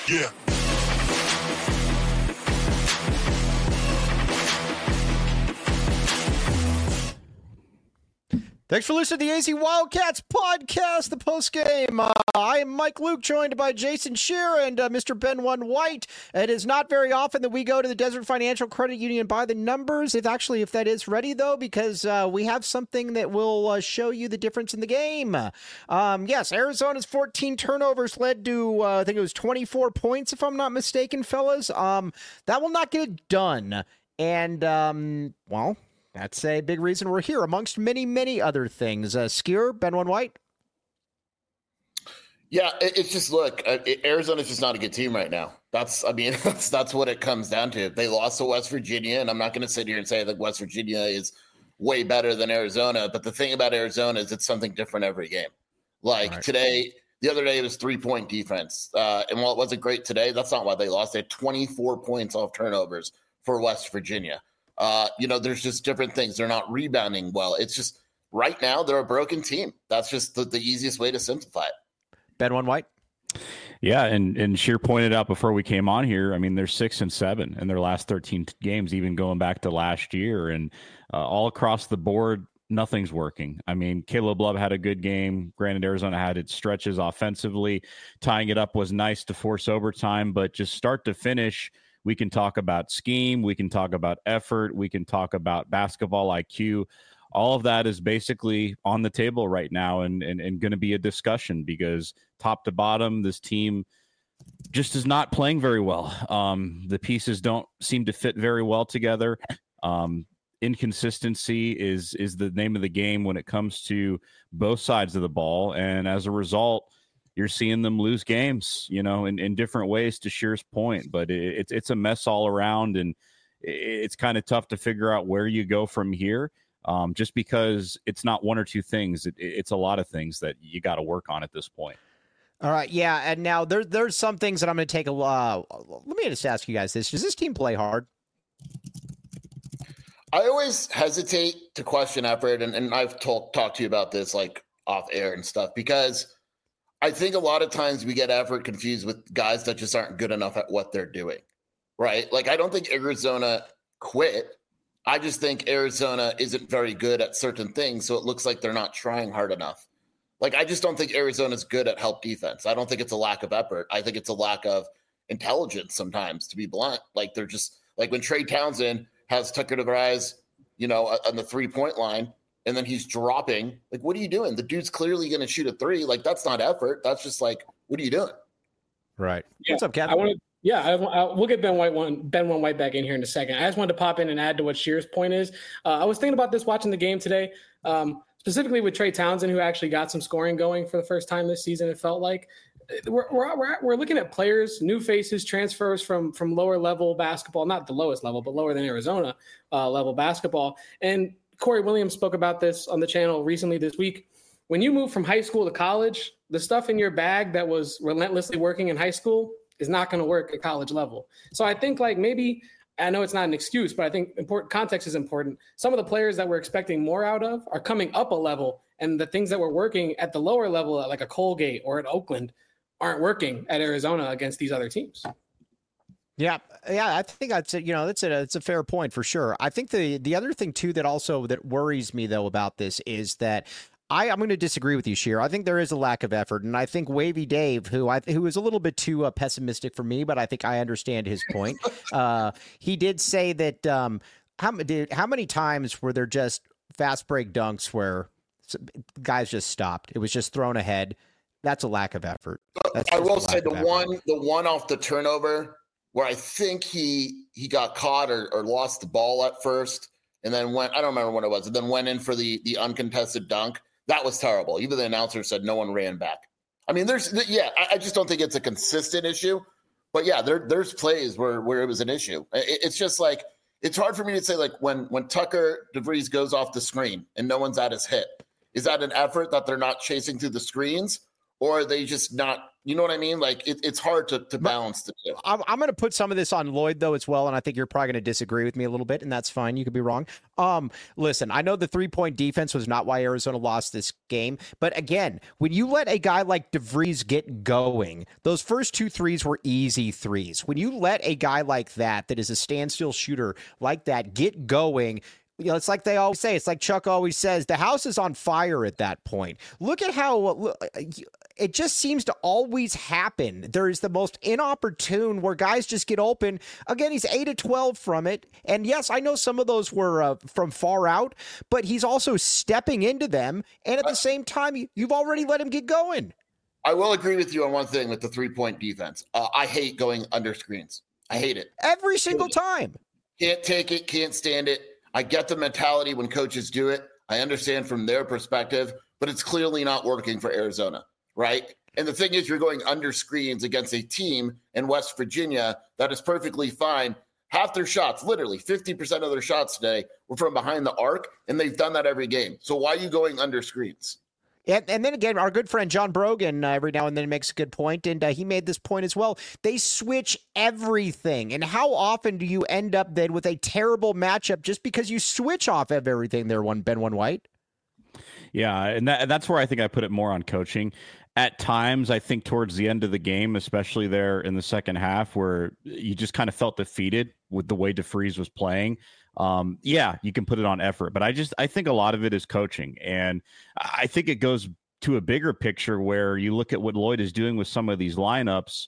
Yeah. Thanks for listening to the AZ Wildcats podcast, the postgame. I am Mike Luke, joined by Jason Scheer and Mr. Ben One White. It is not very often that we go to the Desert Financial Credit Union by the numbers, if that is ready, though, because we have something that will show you the difference in the game. Yes, Arizona's 14 turnovers led to, I think it was 24 points, if I'm not mistaken, fellas. That will not get it done. And, well, that's a big reason we're here, amongst many, many other things. Skier, Ben One White? Yeah, it's just, look, Arizona's just not a good team right now. That's what it comes down to. They lost to West Virginia, and I'm not going to sit here and say that West Virginia is way better than Arizona, but the thing about Arizona is it's something different every game. Like today, the other day it was 3-point defense. And while it wasn't great today, that's not why they lost. They had 24 points off turnovers for West Virginia. There's just different things. They're not rebounding well. It's just right now they're a broken team. That's just the easiest way to simplify it. Ben One White? Yeah, and Scheer pointed out before we came on here, I mean, they're 6-7 in their last 13 games, even going back to last year. And all across the board, nothing's working. I mean, Caleb Love had a good game. Granted, Arizona had its stretches offensively. Tying it up was nice to force overtime, but just start to finish, we can talk about scheme, we can talk about effort, we can talk about basketball IQ. All of that is basically on the table right now and going to be a discussion because top to bottom, this team just is not playing very well. The pieces don't seem to fit very well together. Inconsistency is the name of the game when it comes to both sides of the ball. And as a result, you're seeing them lose games, in different ways, to Scheer's point. But it's a mess all around, and it's kind of tough to figure out where you go from here, just because it's not one or two things. It's a lot of things that you got to work on at this point. All right, yeah, and now there's some things that I'm going to take let me just ask you guys this. Does this team play hard? I always hesitate to question effort, and I've talked to you about this like off air and stuff, because I think a lot of times we get effort confused with guys that just aren't good enough at what they're doing, right? Like, I don't think Arizona quit. I just think Arizona isn't very good at certain things, so it looks like they're not trying hard enough. Like, I just don't think Arizona's good at help defense. I don't think it's a lack of effort. I think it's a lack of intelligence sometimes, to be blunt. Like, they're just – like when Trey Townsend has Tucker DeVries, on the three-point line, and then he's dropping. Like, what are you doing? The dude's clearly going to shoot a three. Like, that's not effort. That's just like, what are you doing? Right. Yeah. What's up, Kevin? We'll get Ben One White back in here in a second. I just wanted to pop in and add to what Scheer's point is. I was thinking about this watching the game today, specifically with Trey Townsend, who actually got some scoring going for the first time this season. It felt like we're looking at players, new faces, transfers from lower level basketball, not the lowest level, but lower than Arizona level basketball. And Corey Williams spoke about this on the channel recently this week. When you move from high school to college, the stuff in your bag that was relentlessly working in high school is not going to work at college level. So I think maybe, I know it's not an excuse, but I think context is important. Some of the players that we're expecting more out of are coming up a level, and the things that were working at the lower level, like a Colgate or at Oakland, aren't working at Arizona against these other teams. Yeah, I think that's it's a fair point for sure. I think the other thing too that worries me though about this is that I'm going to disagree with you, Scheer. I think there is a lack of effort, and I think Wavy Dave, who is a little bit too pessimistic for me, but I think I understand his point. He did say that how many times were there just fast break dunks where guys just stopped? It was just thrown ahead. That's a lack of effort. I will say the one off the turnover where I think he got caught or lost the ball at first, and then I don't remember what it was, and then went in for the uncontested dunk. That was terrible. Even the announcer said no one ran back. I mean, I just don't think it's a consistent issue. But yeah, there's plays where it was an issue. It's just like, it's hard for me to say, like, when Tucker DeVries goes off the screen and no one's at his hit, is that an effort that they're not chasing through the screens, or are they just not You know what I mean? Like it's hard to balance the two. I'm going to put some of this on Lloyd though as well, and I think you're probably going to disagree with me a little bit, and that's fine. You could be wrong. Listen, I know the 3-point defense was not why Arizona lost this game, but again, when you let a guy like DeVries get going, those first 2 threes were easy threes. When you let a guy like that is a standstill shooter like that get going, you know, it's like they always say, it's like Chuck always says, the house is on fire at that point. Look at how it just seems to always happen. There is the most inopportune where guys just get open. Again, he's 8 of 12 from it. And yes, I know some of those were from far out, but he's also stepping into them. And at the same time, you've already let him get going. I will agree with you on one thing with the 3-point defense. I hate going under screens. I hate it. Every single time. Can't take it, can't stand it. I get the mentality when coaches do it. I understand from their perspective, but it's clearly not working for Arizona, right? And the thing is, you're going under screens against a team in West Virginia that is perfectly fine. Half their shots, literally 50% of their shots today were from behind the arc, and they've done that every game. So why are you going under screens? And then again, our good friend John Brogan every now and then makes a good point, and he made this point as well. They switch everything. And how often do you end up then with a terrible matchup just because you switch off of everything there, Ben White? Yeah, and that's where I think I put it more on coaching. At times, I think towards the end of the game, especially there in the second half, where you just kind of felt defeated with the way DeVries was playing. Yeah, you can put it on effort, but I think a lot of it is coaching. And I think it goes to a bigger picture where you look at what Lloyd is doing with some of these lineups.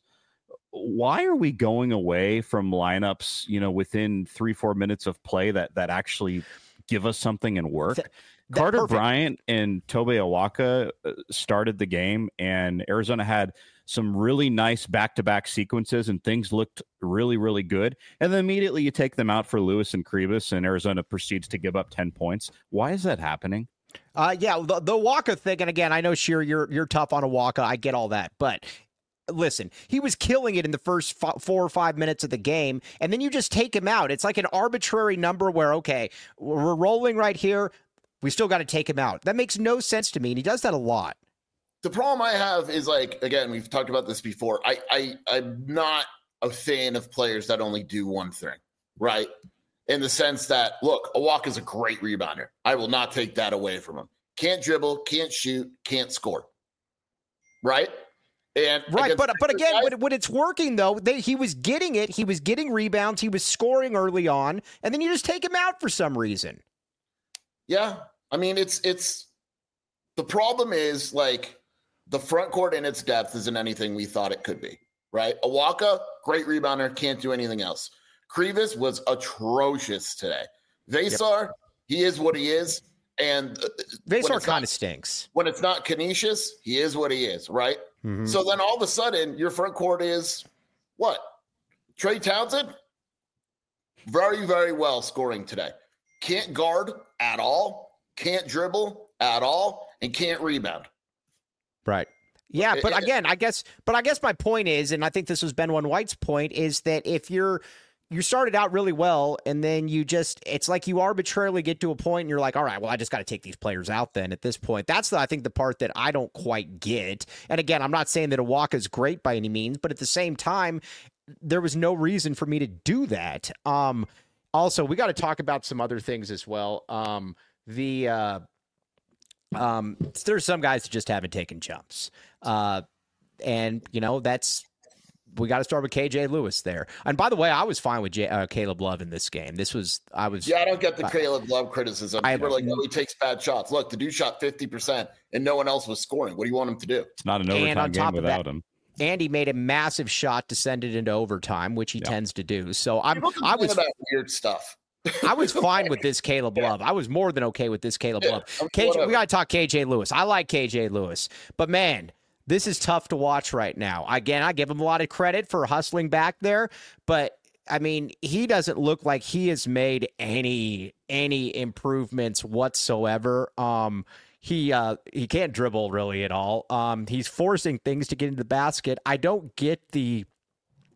Why are we going away from lineups, you know, within 3-4 minutes of play that actually give us something and work? Carter perfect. Bryant and Tobe Awaka started the game, and Arizona had some really nice back-to-back sequences, and things looked really, really good. And then immediately you take them out for Lewis and Kribas, and Arizona proceeds to give up 10 points. Why is that happening? Yeah, the Awaka thing, and again, I know, Sheer, you're tough on Awaka. I get all that, but listen, he was killing it in the first 4 or 5 minutes of the game, and then you just take him out. It's like an arbitrary number where, okay, we're rolling right here. We still got to take him out. That makes no sense to me, and he does that a lot. The problem I have is, like, again, we've talked about this before. I'm not a fan of players that only do one thing, right? In the sense that, look, Awaka is a great rebounder. I will not take that away from him. Can't dribble, can't shoot, can't score, right? And right, but again, when it's working though, he was getting it. He was getting rebounds. He was scoring early on, and then you just take him out for some reason. Yeah, I mean, it's the problem is, like, the front court in its depth isn't anything we thought it could be, right? Awaka, great rebounder, can't do anything else. Kribas was atrocious today. Vesar, he is what he is. And Vesar kind of stinks. When it's not Canisius, he is what he is, right? Mm-hmm. So then all of a sudden, your front court is what? Trey Townsend? Very, very well scoring today. Can't guard at all, can't dribble at all, and can't rebound. Right. Yeah, but again, I guess my point is, and I think this was Ben White's point, is that if you started out really well and then it's like you arbitrarily get to a point and you're like, all right, well, I just got to take these players out then at this point. That's I think the part that I don't quite get. And again, I'm not saying that Awaka is great by any means, but at the same time, there was no reason for me to do that. Also, we got to talk about some other things as well. There's some guys that just haven't taken jumps. And, you know, we got to start with KJ Lewis there. And by the way, I was fine with Caleb Love in this game. Yeah, I don't get the Caleb Love criticism. People are like, oh, he takes bad shots. Look, the dude shot 50% and no one else was scoring. What do you want him to do? It's not an overtime game without him. And he made a massive shot to send it into overtime, which he tends to do. So I was about weird stuff. I was fine with this Caleb Love. I was more than okay with this Caleb Love. We got to talk KJ Lewis. I like KJ Lewis, but man, this is tough to watch right now. Again, I give him a lot of credit for hustling back there, but I mean, he doesn't look like he has made any improvements whatsoever. He can't dribble really at all. He's forcing things to get into the basket. I don't get the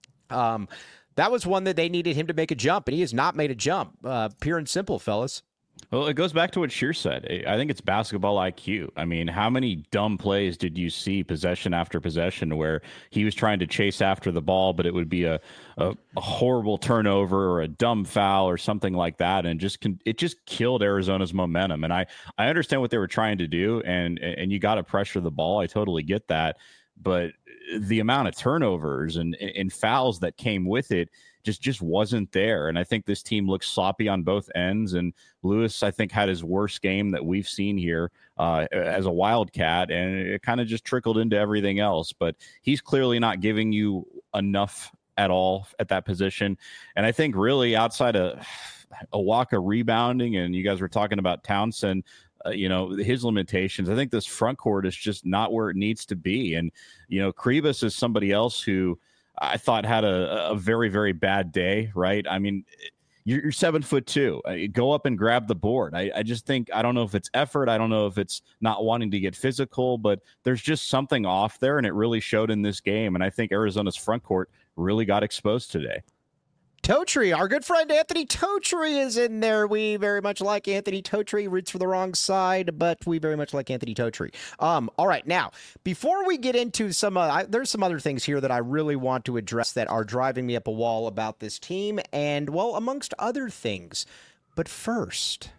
that was one that they needed him to make a jump, and he has not made a jump. Pure and simple, fellas. Well, it goes back to what Shear said. I think it's basketball IQ. I mean, how many dumb plays did you see possession after possession where he was trying to chase after the ball, but it would be a horrible turnover or a dumb foul or something like that, and it just killed Arizona's momentum. And I understand what they were trying to do, and you got to pressure the ball. I totally get that, but the amount of turnovers and fouls that came with it just wasn't there. And I think this team looks sloppy on both ends. And Lewis, I think, had his worst game that we've seen here as a Wildcat, and it kind of just trickled into everything else. But he's clearly not giving you enough at all at that position. And I think really outside of Awaka rebounding, and you guys were talking about Townsend, his limitations, I think this front court is just not where it needs to be. And, Kribas is somebody else who I thought had a very, very bad day, right? I mean, you're 7'2". Go up and grab the board. I just think, I don't know if it's effort. I don't know if it's not wanting to get physical, but there's just something off there, and it really showed in this game. And I think Arizona's front court really got exposed today. Totri, our good friend Anthony Totri is in there. We very much like Anthony Totri. Roots for the wrong side, but we very much like Anthony Totri. All right, now, before we get into there's some other things here that I really want to address that are driving me up a wall about this team, and, well, amongst other things. But first,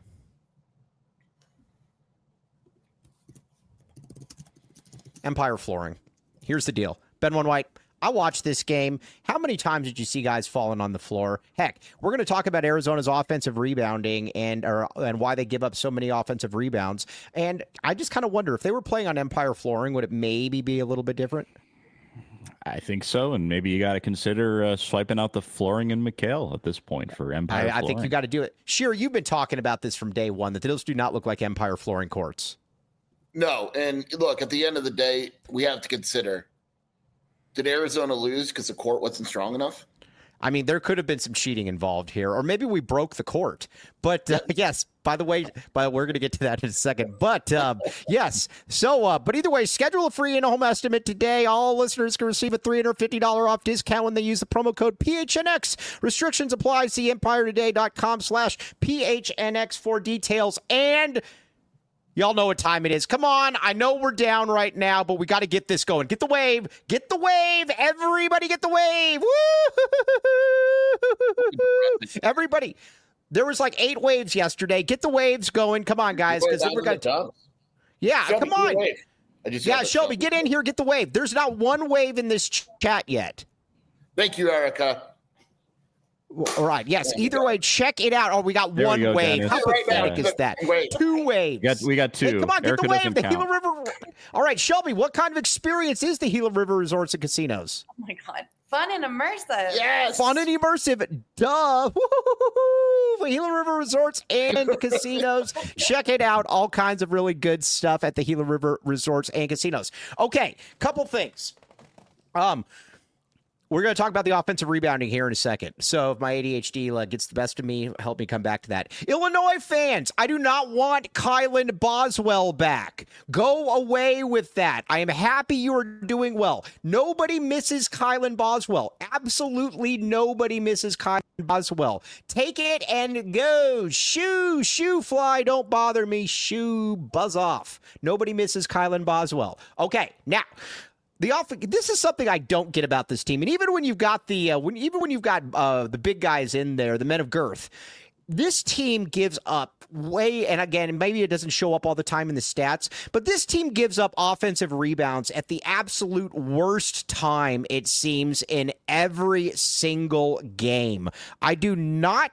Empire Flooring. Here's the deal. Ben One White, I watched this game. How many times did you see guys falling on the floor? Heck, we're going to talk about Arizona's offensive rebounding and why they give up so many offensive rebounds. And I just kind of wonder, if they were playing on Empire Flooring, would it maybe be a little bit different? I think so, and maybe you got to consider swiping out the Flooring and McHale at this point for Empire Flooring. I think you got to do it. Sheer, you've been talking about this from day one, that those do not look like Empire Flooring courts. No, and look, at the end of the day, we have to consider, did Arizona lose because the court wasn't strong enough? I mean, there could have been some cheating involved here, or maybe we broke the court. But yes, by the way, we're going to get to that in a second. But yes, so but either way, schedule a free in-home estimate today. All listeners can receive a $350 off discount when they use the promo code PHNX. Restrictions apply. See EmpireToday.com/PHNX for details. And y'all know what time it is. Come on. I know we're down right now, but we got to get this going. Get the wave. Get the wave. Everybody get the wave. Woo! Everybody. There was like 8 waves yesterday. Get the waves going. Come on, guys. Because we're going to. Yeah, Shelby, come on. Yeah, Shelby, get in here. Get the wave. There's not one wave in this chat yet. Thank you, Erica. All right. Yes. Either way, check it out. Oh, we got one wave. Dennis. How pathetic is that? 2 waves. We got 2. Hey, come on, get Erica the wave. The Gila River. All right, Shelby, what kind of experience is the Gila River Resorts and Casinos? Oh my God. Fun and immersive. Yes. Fun and immersive. Duh. Woo-hoo-hoo-hoo. Gila River Resorts and Casinos. Check it out. All kinds of really good stuff at the Gila River Resorts and Casinos. Okay, couple things. We're going to talk about the offensive rebounding here in a second. So if my ADHD gets the best of me, help me come back to that. Illinois fans, I do not want Kylan Boswell back. Go away with that. I am happy you are doing well. Nobody misses Kylan Boswell. Absolutely nobody misses Kylan Boswell. Take it and go. Shoo, fly, don't bother me. Shoo, buzz off. Nobody misses Kylan Boswell. Okay, now, this is something I don't get about this team, and even when you've got the big guys in there, the men of girth, this team gives up and again, maybe it doesn't show up all the time in the stats, but this team gives up offensive rebounds at the absolute worst time, it seems, in every single game. I do not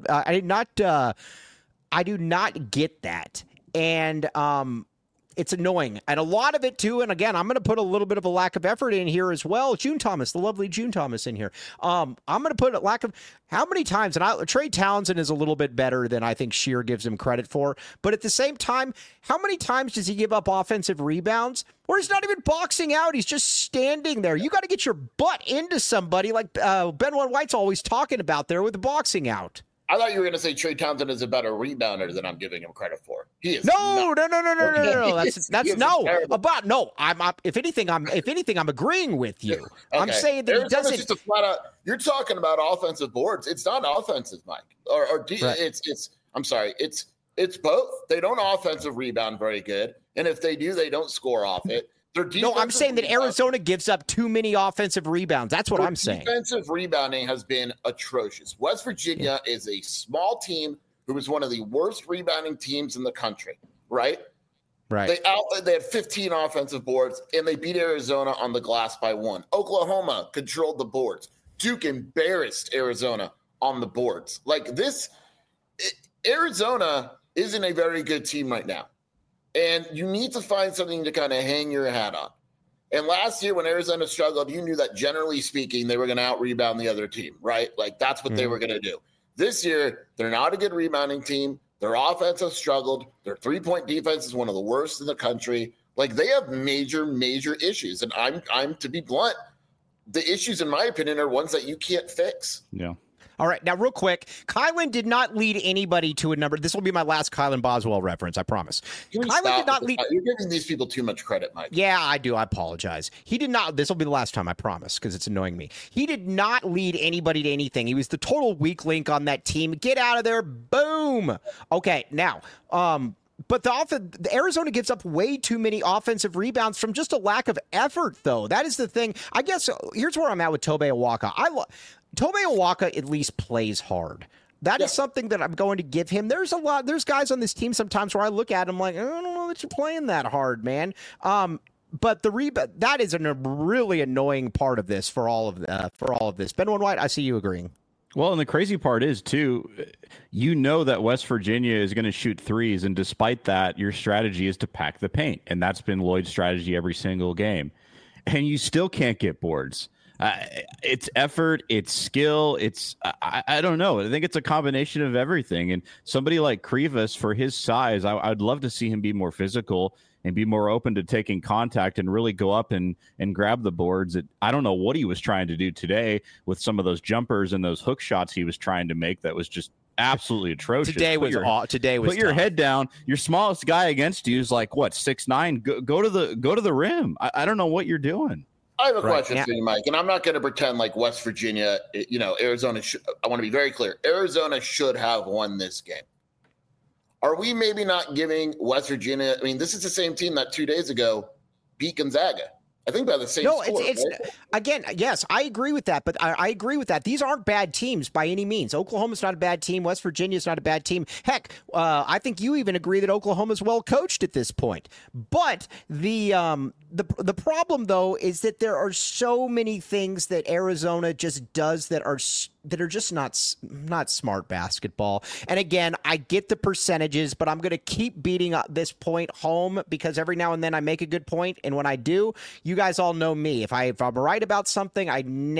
get that, and it's annoying. And a lot of it, too, and again, I'm going to put a little bit of a lack of effort in here as well. June Thomas, the lovely June Thomas in here. I'm going to put a lack of how many times, and Trey Townsend is a little bit better than I think Shear gives him credit for. But at the same time, how many times does he give up offensive rebounds? Or he's not even boxing out. He's just standing there. You got to get your butt into somebody like Ben One White's always talking about there with the boxing out. I thought you were going to say Trey Townsend is a better rebounder than I'm giving him credit for. He is. No. That's no. About no. If anything, I'm agreeing with you. Okay. I'm saying that he doesn't. Just a flat out, you're talking about offensive boards. It's not offensive, Mike. Right. It's. I'm sorry. It's It's both. They don't offensive rebound very good. And if they do, they don't score off it. No, I'm saying that Arizona gives up too many offensive rebounds. That's what I'm saying. Defensive rebounding has been atrocious. West Virginia is a small team who was one of the worst rebounding teams in the country, right? Right. They had 15 offensive boards, and they beat Arizona on the glass by 1. Oklahoma controlled the boards. Duke embarrassed Arizona on the boards. Like this, Arizona isn't a very good team right now. And you need to find something to kind of hang your hat on. And last year when Arizona struggled, you knew that generally speaking, they were going to out-rebound the other team, right? Like that's what they were going to do. This year, they're not a good rebounding team. Their offense has struggled. Their three-point defense is one of the worst in the country. Like they have major, major issues. And I'm to be blunt, the issues, in my opinion, are ones that you can't fix. Yeah. All right. Now, real quick, Kylan did not lead anybody to a number. This will be my last Kylan Boswell reference, I promise. Kylan did not lead. You're giving these people too much credit, Mike. Yeah, I do. I apologize. He did not. This will be the last time, I promise, because it's annoying me. He did not lead anybody to anything. He was the total weak link on that team. Get out of there. Boom. Okay. Now, but the Arizona gives up way too many offensive rebounds from just a lack of effort, though. That is the thing. I guess here's where I'm at with Tobe Awaka. Tobe Awaka at least plays hard. That is something that I'm going to give him. There's guys on this team sometimes where I look at him like, I don't know that you're playing that hard, man. But the rebound, that is a really annoying part of this for all of this. Ben White, I see you agreeing. Well, and the crazy part is, too, you know that West Virginia is going to shoot threes, and despite that, your strategy is to pack the paint, and that's been Lloyd's strategy every single game. And you still can't get boards. It's effort, it's skill, I don't know. I think it's a combination of everything. And somebody like Krivas, for his size, I'd love to see him be more physical and be more open to taking contact and really go up and grab the boards. I don't know what he was trying to do today with some of those jumpers and those hook shots he was trying to make. That was just absolutely atrocious. Today was put your head down. Your smallest guy against you is like what, 6'9". Go to the rim. I don't know what you're doing. I have a question for you, Mike, and I'm not going to pretend like West Virginia, Arizona. I want to be very clear. Arizona should have won this game. Are we maybe not giving West Virginia? I mean, this is the same team that 2 days ago beat Gonzaga. I think by the same score. It's right? Again, yes, I agree with that. But I agree with that. These aren't bad teams by any means. Oklahoma's not a bad team. West Virginia's not a bad team. Heck, I think you even agree that Oklahoma's well coached at this point. But the problem, though, is that there are so many things that Arizona just does that are just not smart basketball. And again, I get the percentages, but I'm going to keep beating this point home because every now and then I make a good point, and when I do, you guys all know me. If I'm right about something,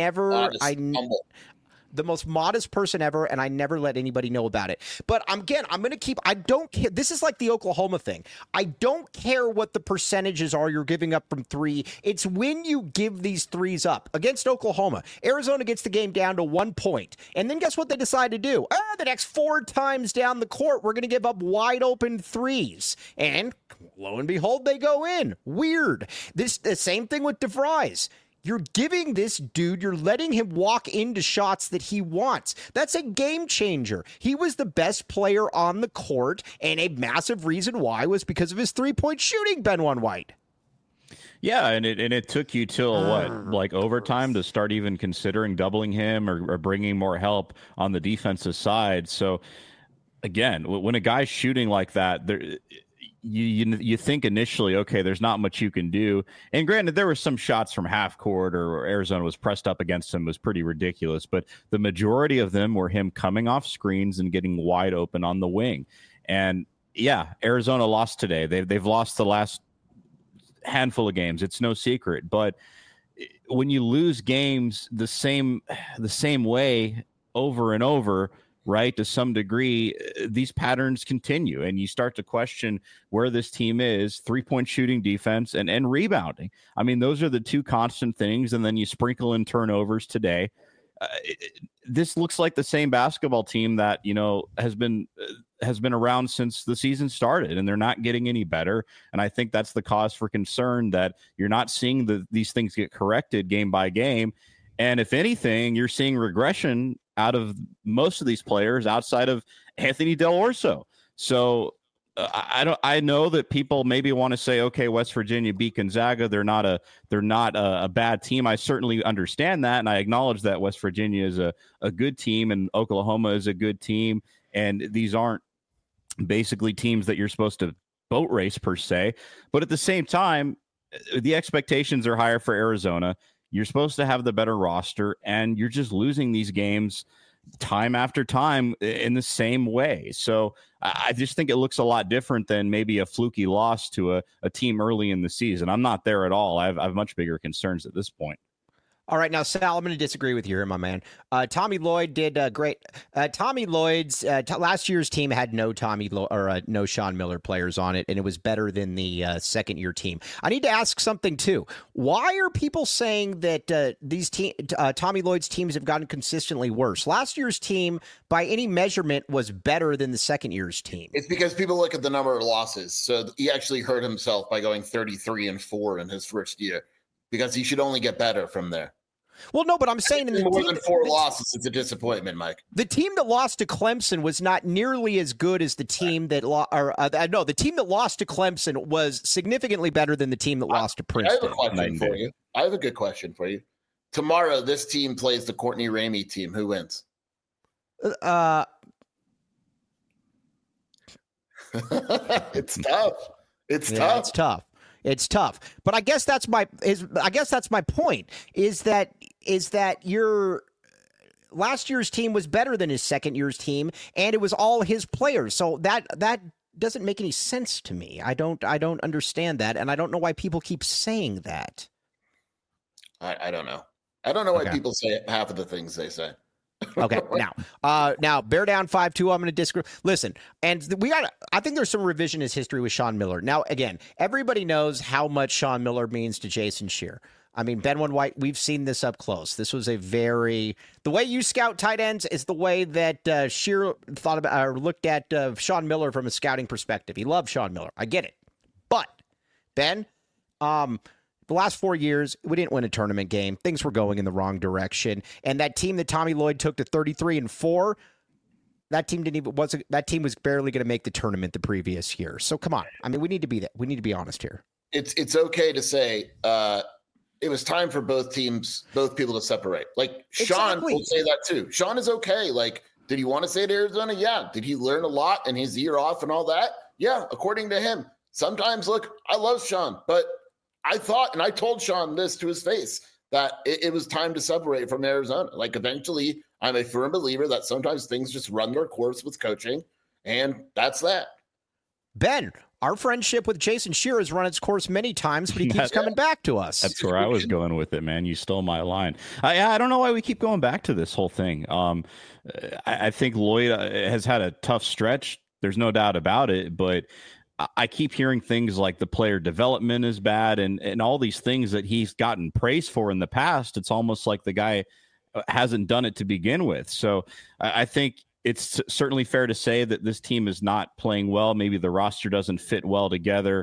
the most modest person ever, and I never let anybody know about it. But again, I'm going to keep. I don't care. This is like the Oklahoma thing. I don't care what the percentages are you're giving up from three. It's when you give these threes up. Against Oklahoma, Arizona gets the game down to 1 point, and then guess what they decide to do? The next 4 times down the court, we're going to give up wide open threes, and lo and behold, they go in. Weird. The same thing with DeVries. You're giving this dude, you're letting him walk into shots that he wants. That's a game changer. He was the best player on the court, and a massive reason why was because of his three-point shooting, Ben White. Yeah, and it took you till like overtime to start even considering doubling him or bringing more help on the defensive side. So again, when a guy's shooting like that, you think initially, okay, there's not much you can do. And granted, there were some shots from half court or Arizona was pressed up against him was pretty ridiculous, but the majority of them were him coming off screens and getting wide open on the wing. And yeah, Arizona lost today. They've lost the last handful of games. It's no secret. But when you lose games the same way over and over, right, to some degree, these patterns continue, and you start to question where this team is, three-point shooting, defense, and rebounding. I mean, those are the two constant things, and then you sprinkle in turnovers today. This looks like the same basketball team that, has been around since the season started, and they're not getting any better. And I think that's the cause for concern, that you're not seeing these things get corrected game by game. And if anything, you're seeing regression out of most of these players outside of Anthony Del Orso. So I know that people maybe want to say, okay, West Virginia beat Gonzaga. They're not a bad team. I certainly understand that, and I acknowledge that West Virginia is a good team, and Oklahoma is a good team, and these aren't basically teams that you're supposed to boat race per se. But at the same time, the expectations are higher for Arizona. You're supposed to have the better roster, and you're just losing these games time after time in the same way. So I just think it looks a lot different than maybe a fluky loss to a team early in the season. I'm not there at all. I have much bigger concerns at this point. All right, now, Sal, I'm going to disagree with you here, my man. Tommy Lloyd did great. Tommy Lloyd's last year's team had no no Sean Miller players on it, and it was better than the second-year team. I need to ask something, too. Why are people saying that Tommy Lloyd's teams have gotten consistently worse? Last year's team, by any measurement, was better than the second year's team. It's because people look at the number of losses. So he actually hurt himself by going 33-4 in his first year, because he should only get better from there. Well, no, but I'm saying more than 4 losses, it's a disappointment, Mike. The team that lost to Clemson was not nearly as good as the team that the team that lost to Clemson was significantly better than the team that lost to Princeton. I have a question for you. I have a good question for you. Tomorrow, this team plays the Courtney Ramey team. Who wins? It's tough. It's tough. It's tough, but I guess that's my point. Is that your last year's team was better than his second year's team, and it was all his players. So that doesn't make any sense to me. I don't understand that, and I don't know why people keep saying that. I don't know. I don't know why people say half of the things they say. Okay, now bear down 5-2. I'm going to disagree. Listen, and I think there's some revisionist history with Sean Miller. Now, again, everybody knows how much Sean Miller means to Jason Scheer. I mean, Ben White, we've seen this up close. This was the way you scout tight ends is the way that Scheer thought about or looked at Sean Miller from a scouting perspective. He loved Sean Miller. I get it. But, Ben, the last 4 years, we didn't win a tournament game. Things were going in the wrong direction. And that team that Tommy Lloyd took to 33-4, that team was barely going to make the tournament the previous year. So come on. I mean, we need to be honest here. It's okay to say it was time for both people to separate. Like Sean will say that too. Sean is okay. Like, did he want to stay at Arizona? Yeah. Did he learn a lot in his year off and all that? Yeah, according to him. Sometimes, look, I love Sean, but I thought, and I told Sean this to his face, that it was time to separate from Arizona. Like, eventually, I'm a firm believer that sometimes things just run their course with coaching, and that's that. Ben, our friendship with Jason Scheer has run its course many times, but he keeps coming back to us. That's where I was going with it, man. You stole my line. I don't know why we keep going back to this whole thing. I think Lloyd has had a tough stretch. There's no doubt about it, but I keep hearing things like the player development is bad and all these things that he's gotten praise for in the past. It's almost like the guy hasn't done it to begin with. So I think it's certainly fair to say that this team is not playing well. Maybe the roster doesn't fit well together.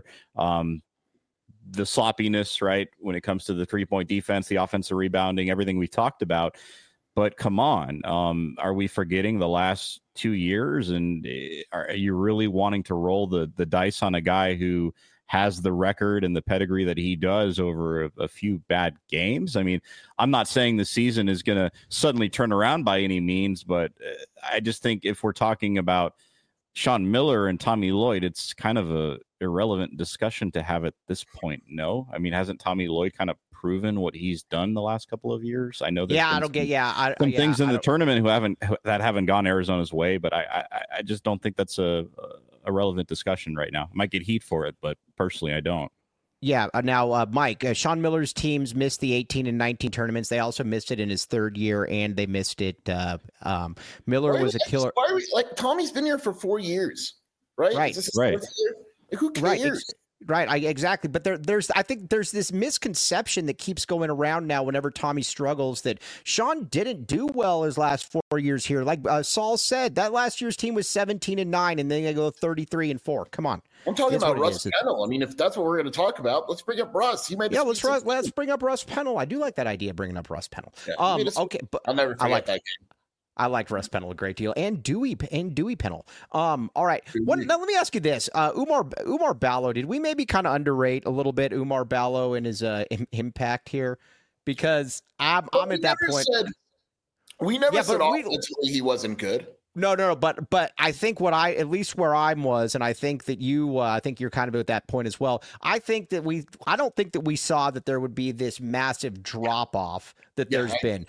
The sloppiness, right, when it comes to the 3-point defense, the offensive rebounding, everything we talked about. But come on, are we forgetting the last 2 years? And are you really wanting to roll the dice on a guy who has the record and the pedigree that he does over a few bad games? I mean, I'm not saying the season is going to suddenly turn around by any means, but I just think if we're talking about Sean Miller and Tommy Lloyd, it's kind of a irrelevant discussion to have at this point. No, I mean, hasn't Tommy Lloyd kind of proven what he's done the last couple of years? I know there's some things in the tournament that haven't gone Arizona's way, but I just don't think that's a relevant discussion right now. I might get heat for it, but personally, I don't. Yeah. Now, Mike, Sean Miller's teams missed the 18 and 19 tournaments. They also missed it in his third year, and they missed it. Miller was a killer. Tommy's been here for 4 years, right? Right. Right. Who cares? Right. Exactly. But I think there's this misconception that keeps going around now whenever Tommy struggles that Sean didn't do well his last 4 years here. Like Saul said, that last year's team was 17-9, and then they go 33-4. Come on. I'm talking about Russ Pennell. I mean, if that's what we're going to talk about, let's bring up Russ. Let's bring up Russ Pennell. I do like that idea, bringing up Russ Pennell. Yeah, okay, but I'll never forget that game. I liked Russ Pennell a great deal, and Dewey Pennell. All right. Now let me ask you this: Umar Ballo, did we maybe kind of underrate a little bit Umar Ballo and his impact here? Because I'm at that point. We never said offensively he wasn't good. No. But I think at least where I was, and I think that I think you're kind of at that point as well. I don't think that we saw that there would be this massive drop off that there's been.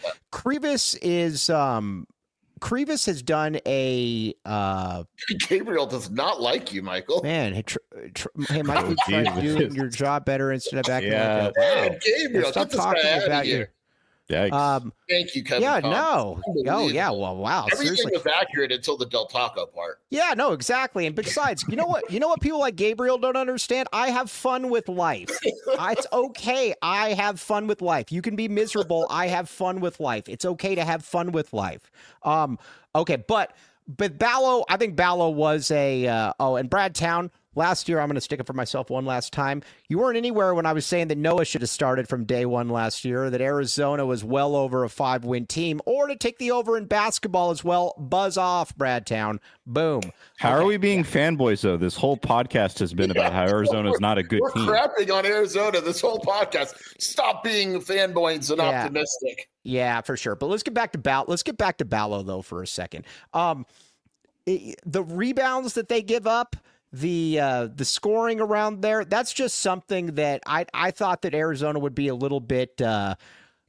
Krivas has done a. Gabriel does not like you, Michael. Man, hey, Michael, try doing your job better instead of acting like that. Wow. Gabriel, stop talking about you. Thank you, Kevin. Yeah, no. Oh, yeah. Well, wow. Everything seriously. was accurate until the Del Taco part. Yeah, no, exactly. And besides, you know what? People like Gabriel don't understand? I have fun with life. It's okay. I have fun with life. You can be miserable. I have fun with life. It's okay to have fun with life. Okay, but Ballo, I think Ballo was and Brad Town. Last year, I'm going to stick it for myself one last time. You weren't anywhere when I was saying that Noah should have started from day one last year, that Arizona was well over a 5-win team, or to take the over in basketball as well. Buzz off, Brad Town. Boom. How are we being fanboys, though? This whole podcast has been about how Arizona is not a good team. We're crapping on Arizona this whole podcast. Stop being fanboys and optimistic. Yeah, for sure. But let's get back to Ballo, though, for a second. The rebounds that they give up, the scoring around there, that's just something that I thought that Arizona would be a little bit better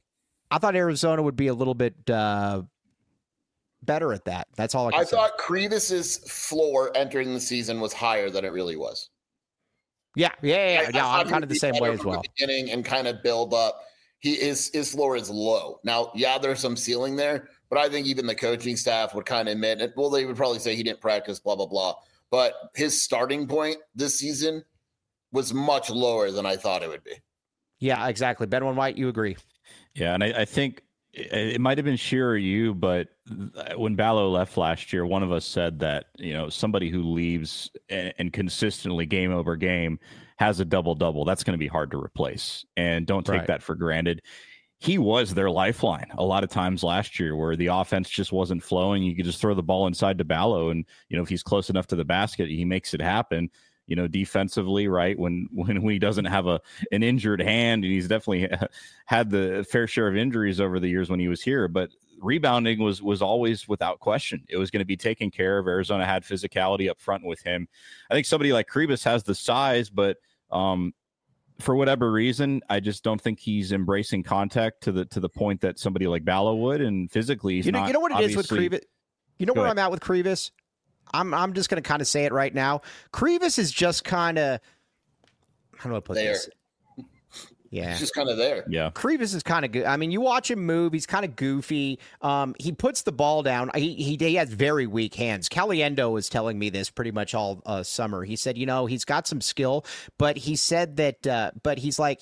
at that. That's all I thought Krivas' floor entering the season was higher than it really was. Yeah. I'm kind of the same way as well. Beginning and kind of build up. His floor is low. Now, there's some ceiling there, but I think even the coaching staff would kind of admit it. Well, they would probably say he didn't practice, blah, blah, blah. But his starting point this season was much lower than I thought it would be. Yeah, exactly. Ben White, you agree? Yeah, and I think it might have been Shearer or you, but when Ballo left last year, one of us said that, somebody who leaves and consistently game over game has a double-double, that's going to be hard to replace. And don't take that for granted. He was their lifeline a lot of times last year where the offense just wasn't flowing. You could just throw the ball inside to Ballo, and, if he's close enough to the basket, he makes it happen. Defensively, right, when he doesn't have an injured hand, and he's definitely had the fair share of injuries over the years when he was here, but rebounding was always without question. It was going to be taken care of. Arizona had physicality up front with him. I think somebody like Krivas has the size, but for whatever reason, I just don't think he's embracing contact to the point that somebody like Ballo would, and physically he's not. You know what it is with Krivas? You know where I'm at with Krivas? I'm just going to kind of say it right now. Krivas is just kind of, how do I put this? Yeah. He's just kind of there. Yeah. Krivas is kind of good. I mean, you watch him move. He's kind of goofy. He puts the ball down. He has very weak hands. Caliendo was telling me this pretty much all summer. He said, he's got some skill, but he said that, but he's like,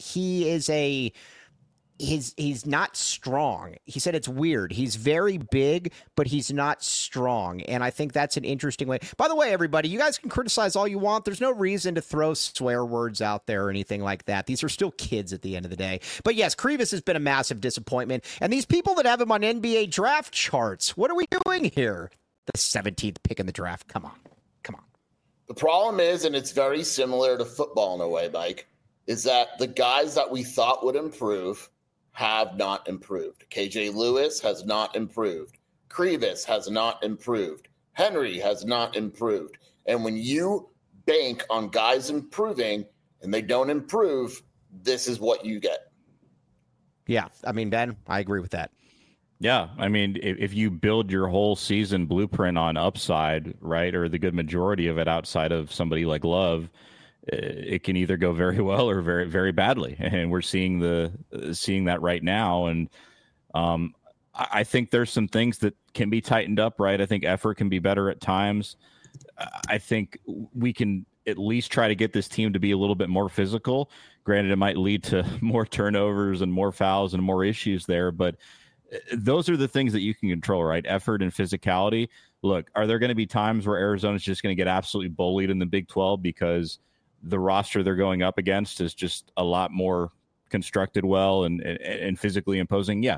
he's not strong. He said it's weird. He's very big, but he's not strong. And I think that's an interesting way. By the way, everybody, you guys can criticize all you want. There's no reason to throw swear words out there or anything like that. These are still kids at the end of the day. But yes, Krivas has been a massive disappointment. And these people that have him on NBA draft charts, what are we doing here? The 17th pick in the draft. Come on. The problem is, and it's very similar to football in a way, Mike, is that the guys that we thought would improve have not improved. KJ Lewis has not improved. Krivas has not improved. Henry has not improved. And when you bank on guys improving and they don't improve, this is what you get. Yeah. I mean, Ben, I agree with that. Yeah. I mean, if you build your whole season blueprint on upside, right, or the good majority of it outside of somebody like Love, it can either go very well or very, very badly. And we're seeing that right now. And I think there's some things that can be tightened up, right? I think effort can be better at times. I think we can at least try to get this team to be a little bit more physical. Granted, it might lead to more turnovers and more fouls and more issues there, but those are the things that you can control, right? Effort and physicality. Look, are there going to be times where Arizona's just going to get absolutely bullied in the Big 12 because the roster they're going up against is just a lot more constructed well and physically imposing? Yeah,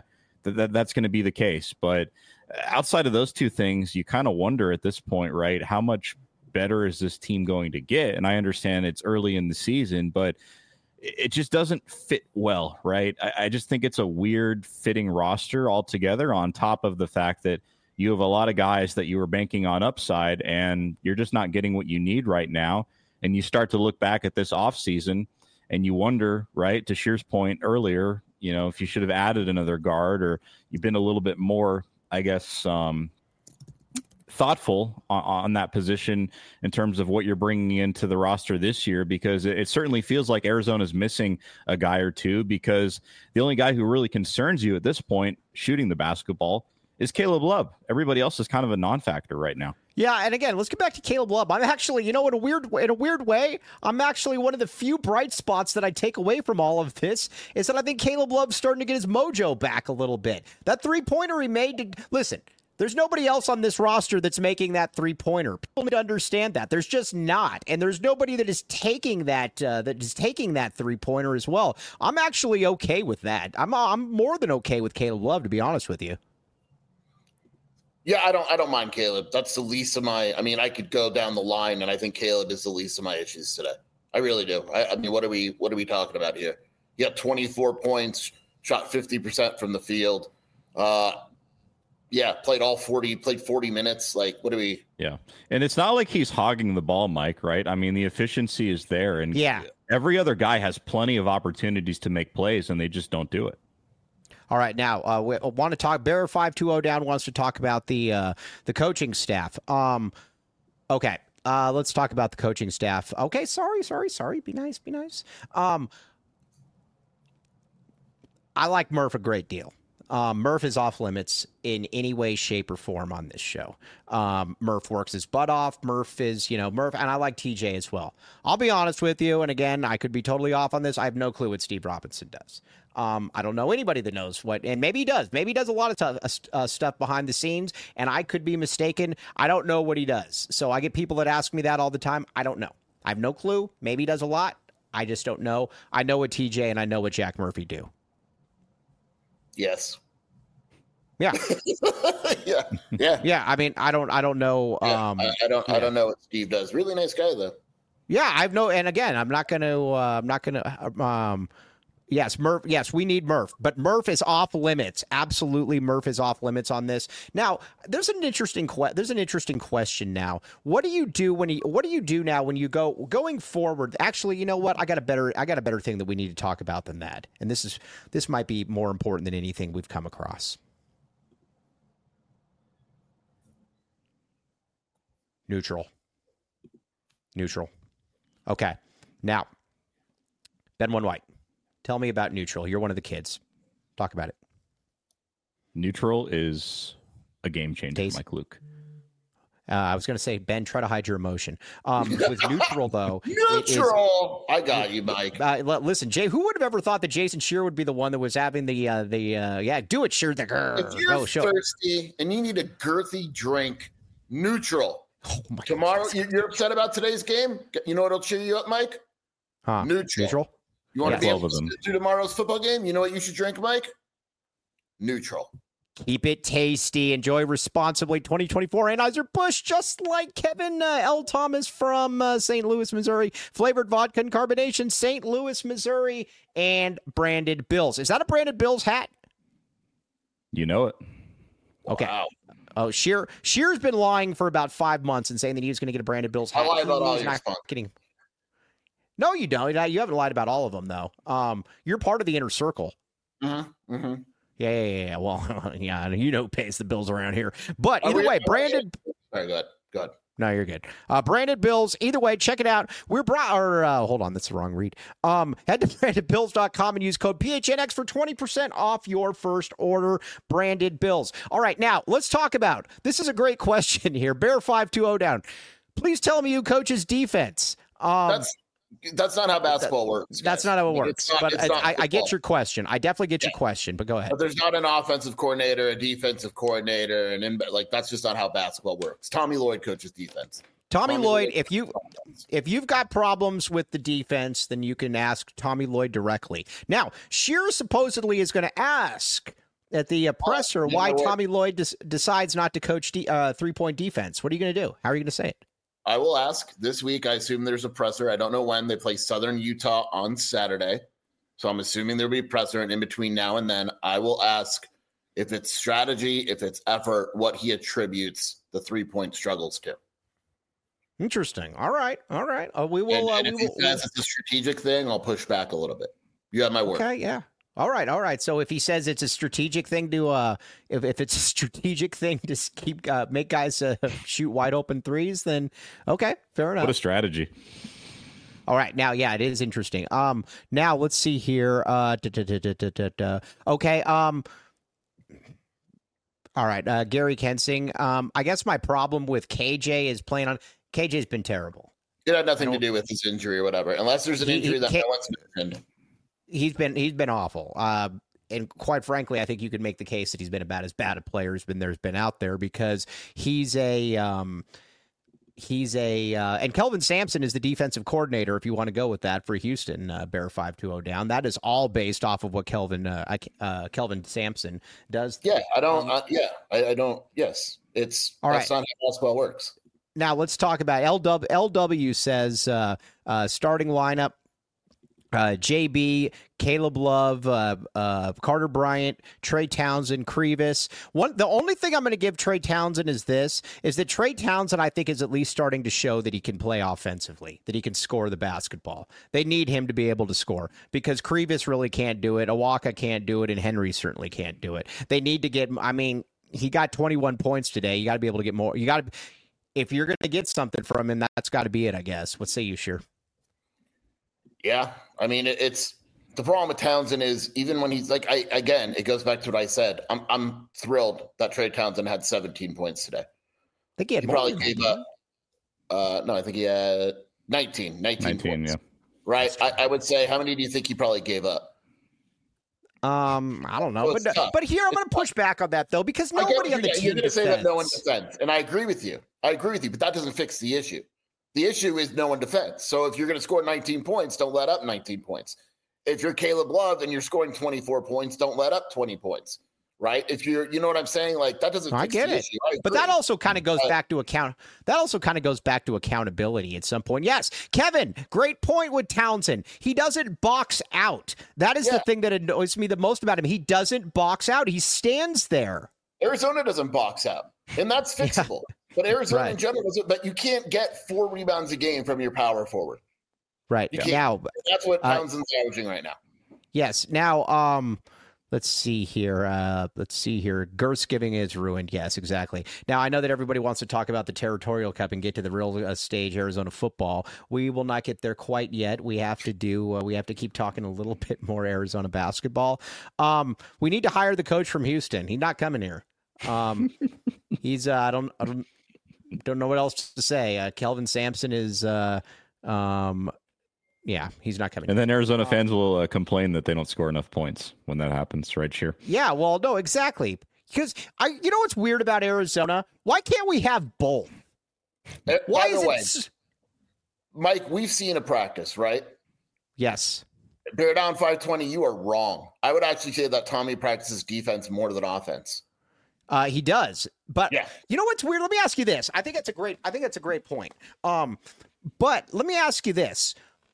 that's going to be the case. But outside of those two things, you kind of wonder at this point, right? How much better is this team going to get? And I understand it's early in the season, but it just doesn't fit well, right? I just think it's a weird fitting roster altogether, on top of the fact that you have a lot of guys that you were banking on upside and you're just not getting what you need right now. And you start to look back at this offseason and you wonder, right, to Shear's point earlier, if you should have added another guard, or you've been a little bit more, I guess, thoughtful on that position in terms of what you're bringing into the roster this year, because it certainly feels like Arizona's missing a guy or two, because the only guy who really concerns you at this point shooting the basketball is Caleb Love. Everybody else is kind of a non-factor right now. Yeah, and again, let's get back to Caleb Love. I'm actually, in a weird way, I'm actually one of the few bright spots that I take away from all of this is that I think Caleb Love's starting to get his mojo back a little bit. That three-pointer he made, listen, there's nobody else on this roster that's making that three-pointer. People need to understand that. There's just not. And there's nobody that is taking that three-pointer as well. I'm actually okay with that. I'm more than okay with Caleb Love, to be honest with you. Yeah, I don't mind Caleb. That's the least of my. I mean, I could go down the line, and I think Caleb is the least of my issues today. I really do. I mean, what are we talking about here? He had 24 points, shot 50% from the field. Played 40 minutes. Like, what do we? Yeah, and it's not like he's hogging the ball, Mike. Right? I mean, the efficiency is there, and every other guy has plenty of opportunities to make plays, and they just don't do it. All right, now we want to talk. Bear 520 down wants to talk about the coaching staff. Okay, let's talk about the coaching staff. Okay, sorry. Be nice. I like Murph a great deal. Murph is off limits in any way, shape, or form on this show. Murph works his butt off. Murph is, Murph, and I like TJ as well. I'll be honest with you, and again, I could be totally off on this. I have no clue what Steve Robinson does. I don't know anybody that knows what, and maybe he does. Maybe he does a lot of stuff behind the scenes, and I could be mistaken. I don't know what he does. So I get people that ask me that all the time. I don't know. I have no clue. Maybe he does a lot. I just don't know. I know what TJ and I know what Jack Murphy do. Yes. Yeah. Yeah. I mean, I don't know. I don't know what Steve does. Really nice guy though. Yeah, I've no, and again, I'm not gonna. Yes, Murph. Yes, we need Murph, but Murph is off limits. Absolutely, Murph is off limits on this. Now, there's an interesting question. Now, what do you do what do you do now when you going forward? Actually, you know what? I got a better thing that we need to talk about than that, and this might be more important than anything we've come across. Neutral. Okay. Now, Ben One White. Tell me about neutral. You're one of the kids. Talk about it. Neutral is a game changer, Mike Luke. I was going to say, Ben, try to hide your emotion. With neutral, though. I got you, Mike. Listen, Jay, who would have ever thought that Jason Scheer would be the one that was having do it, Scheer. If you're thirsty and you need a girthy drink, neutral. Oh my Tomorrow, God. you're upset about today's game? You know what'll cheer you up, Mike? Neutral. You want to be able to do tomorrow's football game? You know what you should drink, Mike? Neutral. Keep it tasty. Enjoy responsibly. 2024 Anheuser-Busch, just like Kevin L. Thomas from St. Louis, Missouri. Flavored vodka and carbonation, St. Louis, Missouri, and Branded Bills. Is that a Branded Bills hat? You know it. Okay. Wow. Oh, Scheer's been lying for about 5 months and saying that he was going to get a Branded Bills hat. I lie about all your not kidding. No, you don't. You haven't lied about all of them, though. You're part of the inner circle. Mm-hmm. Mm-hmm. Yeah. Well, yeah, who pays the bills around here. But either way, Branded. All right, good. No, you're good. Branded Bills. Either way, check it out. Hold on, that's the wrong read. Head to brandedbills.com and use code PHNX for 20% off your first order. Branded Bills. All right, now let's talk about. This is a great question here. Bear 520 down. Please tell me who coaches defense. That's not how basketball works. That's not how it works. I get your question. I definitely get your question, but go ahead. But there's not an offensive coordinator, a defensive coordinator, and that's just not how basketball works. Tommy Lloyd coaches defense. Tommy Lloyd, if you've got problems with the defense, then you can ask Tommy Lloyd directly. Now, Scheer supposedly is going to ask at the presser why what? Tommy Lloyd decides not to coach 3-point defense. What are you going to do? How are you going to say it? I will ask this week. I assume there's a presser. I don't know when. They play Southern Utah on Saturday. So I'm assuming there'll be a presser. And in between now and then, I will ask if it's strategy, if it's effort, what he attributes the 3-point struggles to. Interesting. All right. We will. And if he says it's a strategic thing, I'll push back a little bit. You have my word. Okay. Yeah. All right. So if he says it's a strategic thing to, if it's a strategic thing to keep make guys shoot wide open threes, then okay, fair enough. What a strategy! All right, now, yeah, it is interesting. Now let's see here. Okay. All right, Gary Kensing. I guess my problem with KJ is playing on. KJ's been terrible. It had nothing to do with his injury or whatever, unless there's an injury that no one's mentioned. He's been awful. And quite frankly, I think you could make the case that he's been about as bad a player as there's been out there because and Kelvin Sampson is the defensive coordinator, if you want to go with that, for Houston, Bear 5-2-0 down. That is all based off of what Kelvin Sampson does. Yeah, I don't. Yes, that's not how basketball works. Now let's talk about LW says starting lineup. JB, Caleb Love, Carter Bryant, Trey Townsend, Krevis. The only thing I'm going to give Trey Townsend is that Trey Townsend, I think, is at least starting to show that he can play offensively, that he can score the basketball. They need him to be able to score because Krevis really can't do it, Awaka can't do it, and Henry certainly can't do it. They need to get, he got 21 points today. You got to be able to get more. If you're going to get something from him, that's got to be it, I guess. What say you, Sheer? Yeah, it's the problem with Townsend is even when he's it goes back to what I said. I'm thrilled that Trey Townsend had 17 points today. I think he probably gave up. No, I think he had 19 points. Yeah. Right. I would say, how many do you think he probably gave up? I don't know, but here I'm going to push back on that though because nobody on the team you're going to say that no one defends, and I agree with you, but that doesn't fix the issue. The issue is no one defends. So if you're going to score 19 points, don't let up 19 points. If you're Caleb Love and you're scoring 24 points, don't let up 20 points, right? If you're, you know what I'm saying? Like that doesn't fix the issue. But that also kind of goes back to accountability at some point. Yes, Kevin, great point with Townsend. He doesn't box out. That is the thing that annoys me the most about him. He doesn't box out. He stands there. Arizona doesn't box out, and that's fixable. Yeah. But Arizona in general doesn't. But you can't get 4 rebounds a game from your power forward. Right. Now that's what Townsend's averaging right now. Yes. Now, let's see here. Girth's giving is ruined. Yes, exactly. Now, I know that everybody wants to talk about the Territorial Cup and get to the real stage, Arizona football. We will not get there quite yet. We have to we have to keep talking a little bit more Arizona basketball. We need to hire the coach from Houston. He's not coming here. He's I don't know what else to say. Kelvin Sampson is he's not coming. And then Arizona fans will complain that they don't score enough points when that happens, right, Sheer? Yeah, well, no, exactly. Because you know what's weird about Arizona? Why can't we have both? Why is it, Mike? We've seen a practice, right? Yes. They're down 520. You are wrong. I would actually say that Tommy practices defense more than offense. He does, but you know what's weird? Let me ask you this. I think that's a great point. But let me ask you this.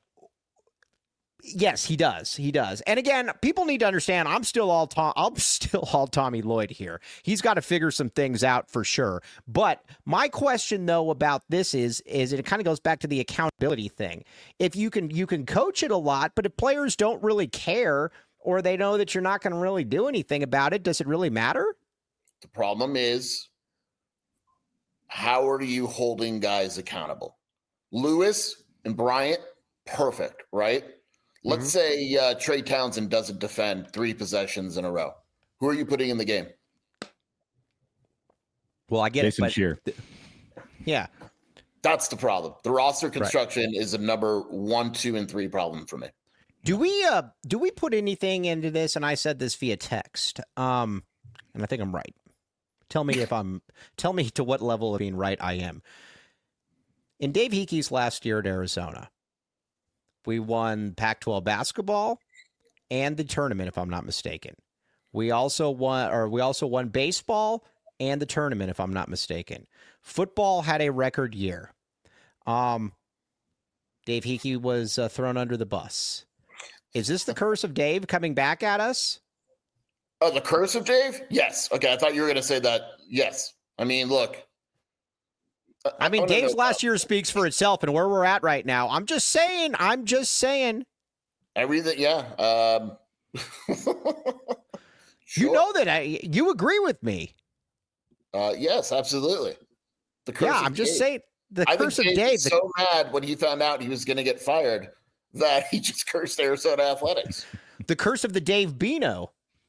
Yes, he does. And again, people need to understand. I'm still all Tommy Lloyd here. He's got to figure some things out for sure. But my question though about this is it kind of goes back to the accountability thing. If you can coach it a lot, but if players don't really care or they know that you're not going to really do anything about it, does it really matter? The problem is, how are you holding guys accountable? Lewis and Bryant, perfect, right? Let's say Trey Townsend doesn't defend 3 possessions in a row. Who are you putting in the game? Well, I get Jason it, but Sheer. Yeah. That's the problem. The roster construction is a number 1, 2, and 3 problem for me. Do we put anything into this? And I said this via text. And I think I'm right. Tell me to what level of being right I am. In Dave Hickey's last year at Arizona, we won Pac-12 basketball and the tournament, if I'm not mistaken. We also won baseball and the tournament, if I'm not mistaken. Football had a record year. Dave Hickey was thrown under the bus. Is this the curse of Dave coming back at us? Oh, the curse of Dave? Yes. Okay, I thought you were going to say that. Yes. I mean, look. I mean, Dave's last year speaks for itself and where we're at right now. I'm just saying. Everything, yeah. You know that you agree with me. Yes, absolutely. The curse of I'm just Dave. saying. The curse of Dave. Was so mad when he found out he was going to get fired that he just cursed Arizona Athletics. The curse of the Dave Bino.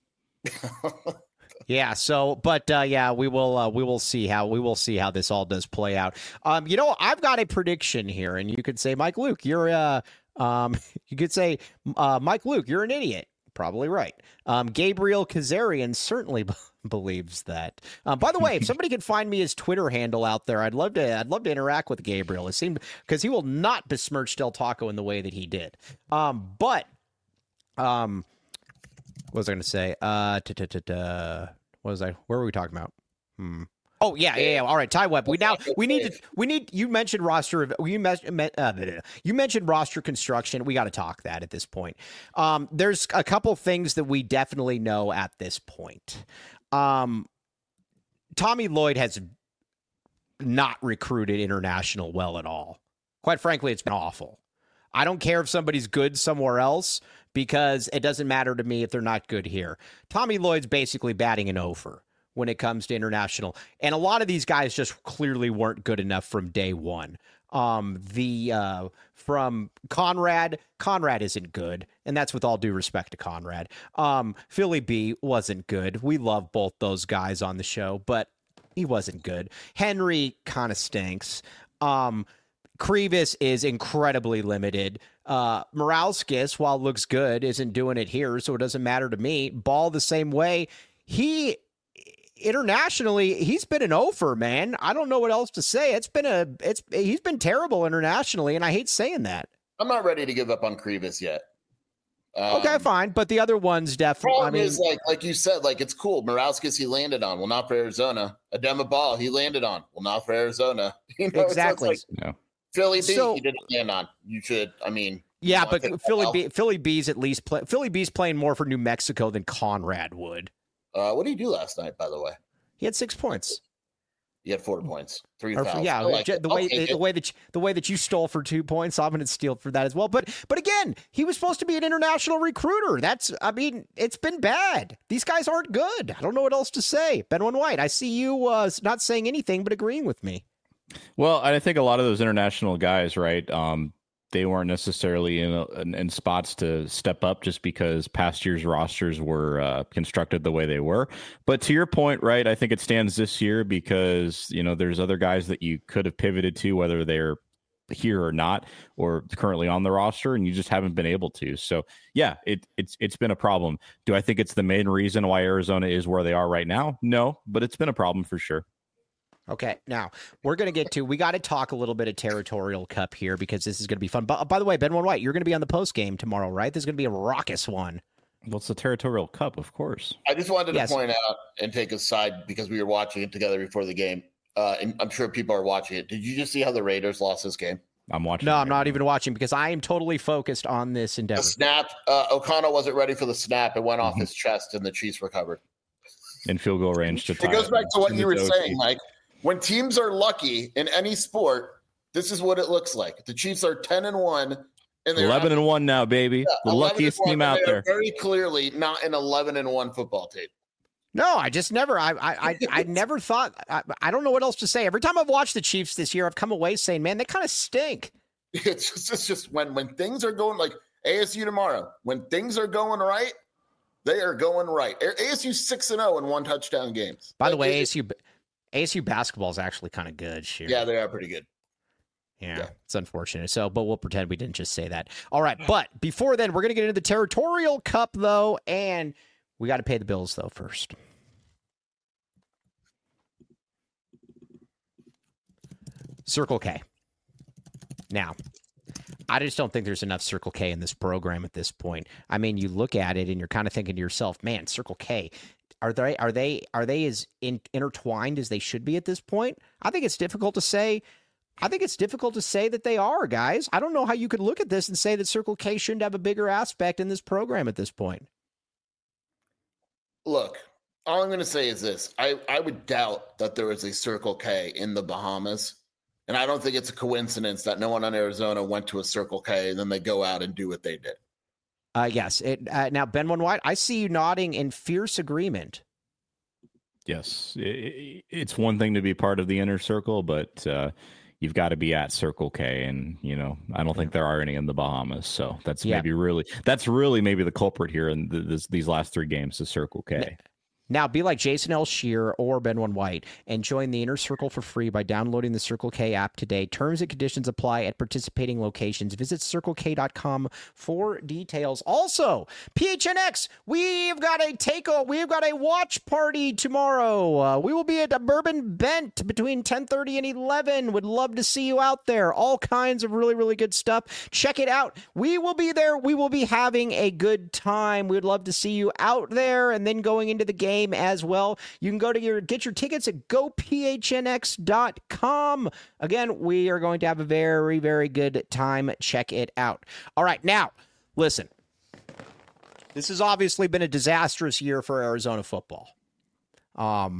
Yeah. So, but we will see how this all does play out. I've got a prediction here, and you could say, Mike Luke, you're you could say, Mike Luke, you're an idiot. Probably right. Gabriel Kazarian certainly believes that. By the way, if somebody could find me his Twitter handle out there, I'd love to interact with Gabriel. It seemed because he will not besmirch Del Taco in the way that he did. What was I going to say? What was I? Where were we talking about? Oh yeah. All right, Ty Webb. We need. You mentioned roster. You mentioned roster construction. We got to talk that at this point. There's a couple things that we definitely know at this point. Tommy Lloyd has not recruited international well at all. Quite frankly, it's been awful. I don't care if somebody's good somewhere else because it doesn't matter to me if they're not good here. Tommy Lloyd's basically batting an over when it comes to international. And a lot of these guys just clearly weren't good enough from day one. From Conrad isn't good, and that's with all due respect to Conrad. Philly B wasn't good. We love both those guys on the show, but he wasn't good. Henry kind of stinks. Krivas is incredibly limited. Moralskis, while looks good, isn't doing it here, so it doesn't matter to me. Ball the same way. Internationally, he's been an offer, man. I don't know what else to say. He's been terrible internationally, and I hate saying that. I'm not ready to give up on Krivas yet. Okay, fine, but the other ones definitely. Problem is, like you said, it's cool. Moralskis, he landed on. Well, not for Arizona. Adema Ball, he landed on. Well, not for Arizona. Exactly. No. Philly B, he didn't land on. You should. I mean. Yeah, but Philly B's at least Philly B's playing more for New Mexico than Conrad would. What did he do last night, by the way? He had 6 points. He had 4 points, 3,000. Yeah, the way that you stole for 2 points, I'm going to steal for that as well. But again, he was supposed to be an international recruiter. It's been bad. These guys aren't good. I don't know what else to say. Benwin White, I see you not saying anything but agreeing with me. Well, I think a lot of those international guys, right? They weren't necessarily in spots to step up just because past year's rosters were constructed the way they were. But to your point, right, I think it stands this year because, there's other guys that you could have pivoted to, whether they're here or not, or currently on the roster, and you just haven't been able to. So, yeah, it's been a problem. Do I think it's the main reason why Arizona is where they are right now? No, but it's been a problem for sure. Okay, now we got to talk a little bit of Territorial Cup here because this is going to be fun. By the way, Benwin White, you're going to be on the post game tomorrow, right? This is going to be a raucous one. Well, it's the Territorial Cup, of course. I just wanted to point out and take a side because we were watching it together before the game, and I'm sure people are watching it. Did you just see how the Raiders lost this game? I'm watching. No, I'm not even watching because I am totally focused on this endeavor. The snap, O'Connell wasn't ready for the snap. It went off his chest, and the Chiefs recovered. In field goal range to tie. It goes back to what you were saying, Mike. When teams are lucky in any sport, this is what it looks like. The Chiefs are 10-1, and they're 11-1 now, baby. The luckiest team out there. Very clearly, not an 11-1 football team. No, I just never. I never thought. I don't know what else to say. Every time I've watched the Chiefs this year, I've come away saying, "Man, they kind of stink." It's just when things are going like ASU tomorrow. When things are going right, they are going right. ASU 6-0 in 1 touchdown games. By the way, ASU basketball is actually kind of good. Sure. Yeah, they are pretty good. Yeah, it's unfortunate. So, but we'll pretend we didn't just say that. All right, but before then, we're going to get into the Territorial Cup, though, and we got to pay the bills, though, first. Circle K. Now, I just don't think there's enough Circle K in this program at this point. I mean, you look at it and you're kind of thinking to yourself, man, Circle K, are they as intertwined as they should be at this point? I think it's difficult to say. I think it's difficult to say that they are, guys. I don't know how you could look at this and say that Circle K shouldn't have a bigger aspect in this program at this point. Look, all I'm going to say is this. I would doubt that there is a Circle K in the Bahamas. And I don't think it's a coincidence that no one on Arizona went to a Circle K and then they go out and do what they did. Yes. Now, Ben One White, I see you nodding in fierce agreement. Yes. It's one thing to be part of the inner circle, but you've got to be at Circle K. And, I don't think there are any in the Bahamas. So that's really the culprit here in these last 3 games, the Circle K. Now, be like Jason L. Shear or Ben One White and join the Inner Circle for free by downloading the Circle K app today. Terms and conditions apply at participating locations. Visit CircleK.com for details. Also, PHNX, we've got a takeover. We've got a watch party tomorrow. We will be at a Bourbon Bent between 10:30 and 11. Would love to see you out there. All kinds of really, really good stuff. Check it out. We will be there. We will be having a good time. We'd love to see you out there and then going into the game as well. You can get your tickets at gophnx.com. Again, we are going to have a very, very good time. Check it out. All right, now, listen. This has obviously been a disastrous year for Arizona football. Or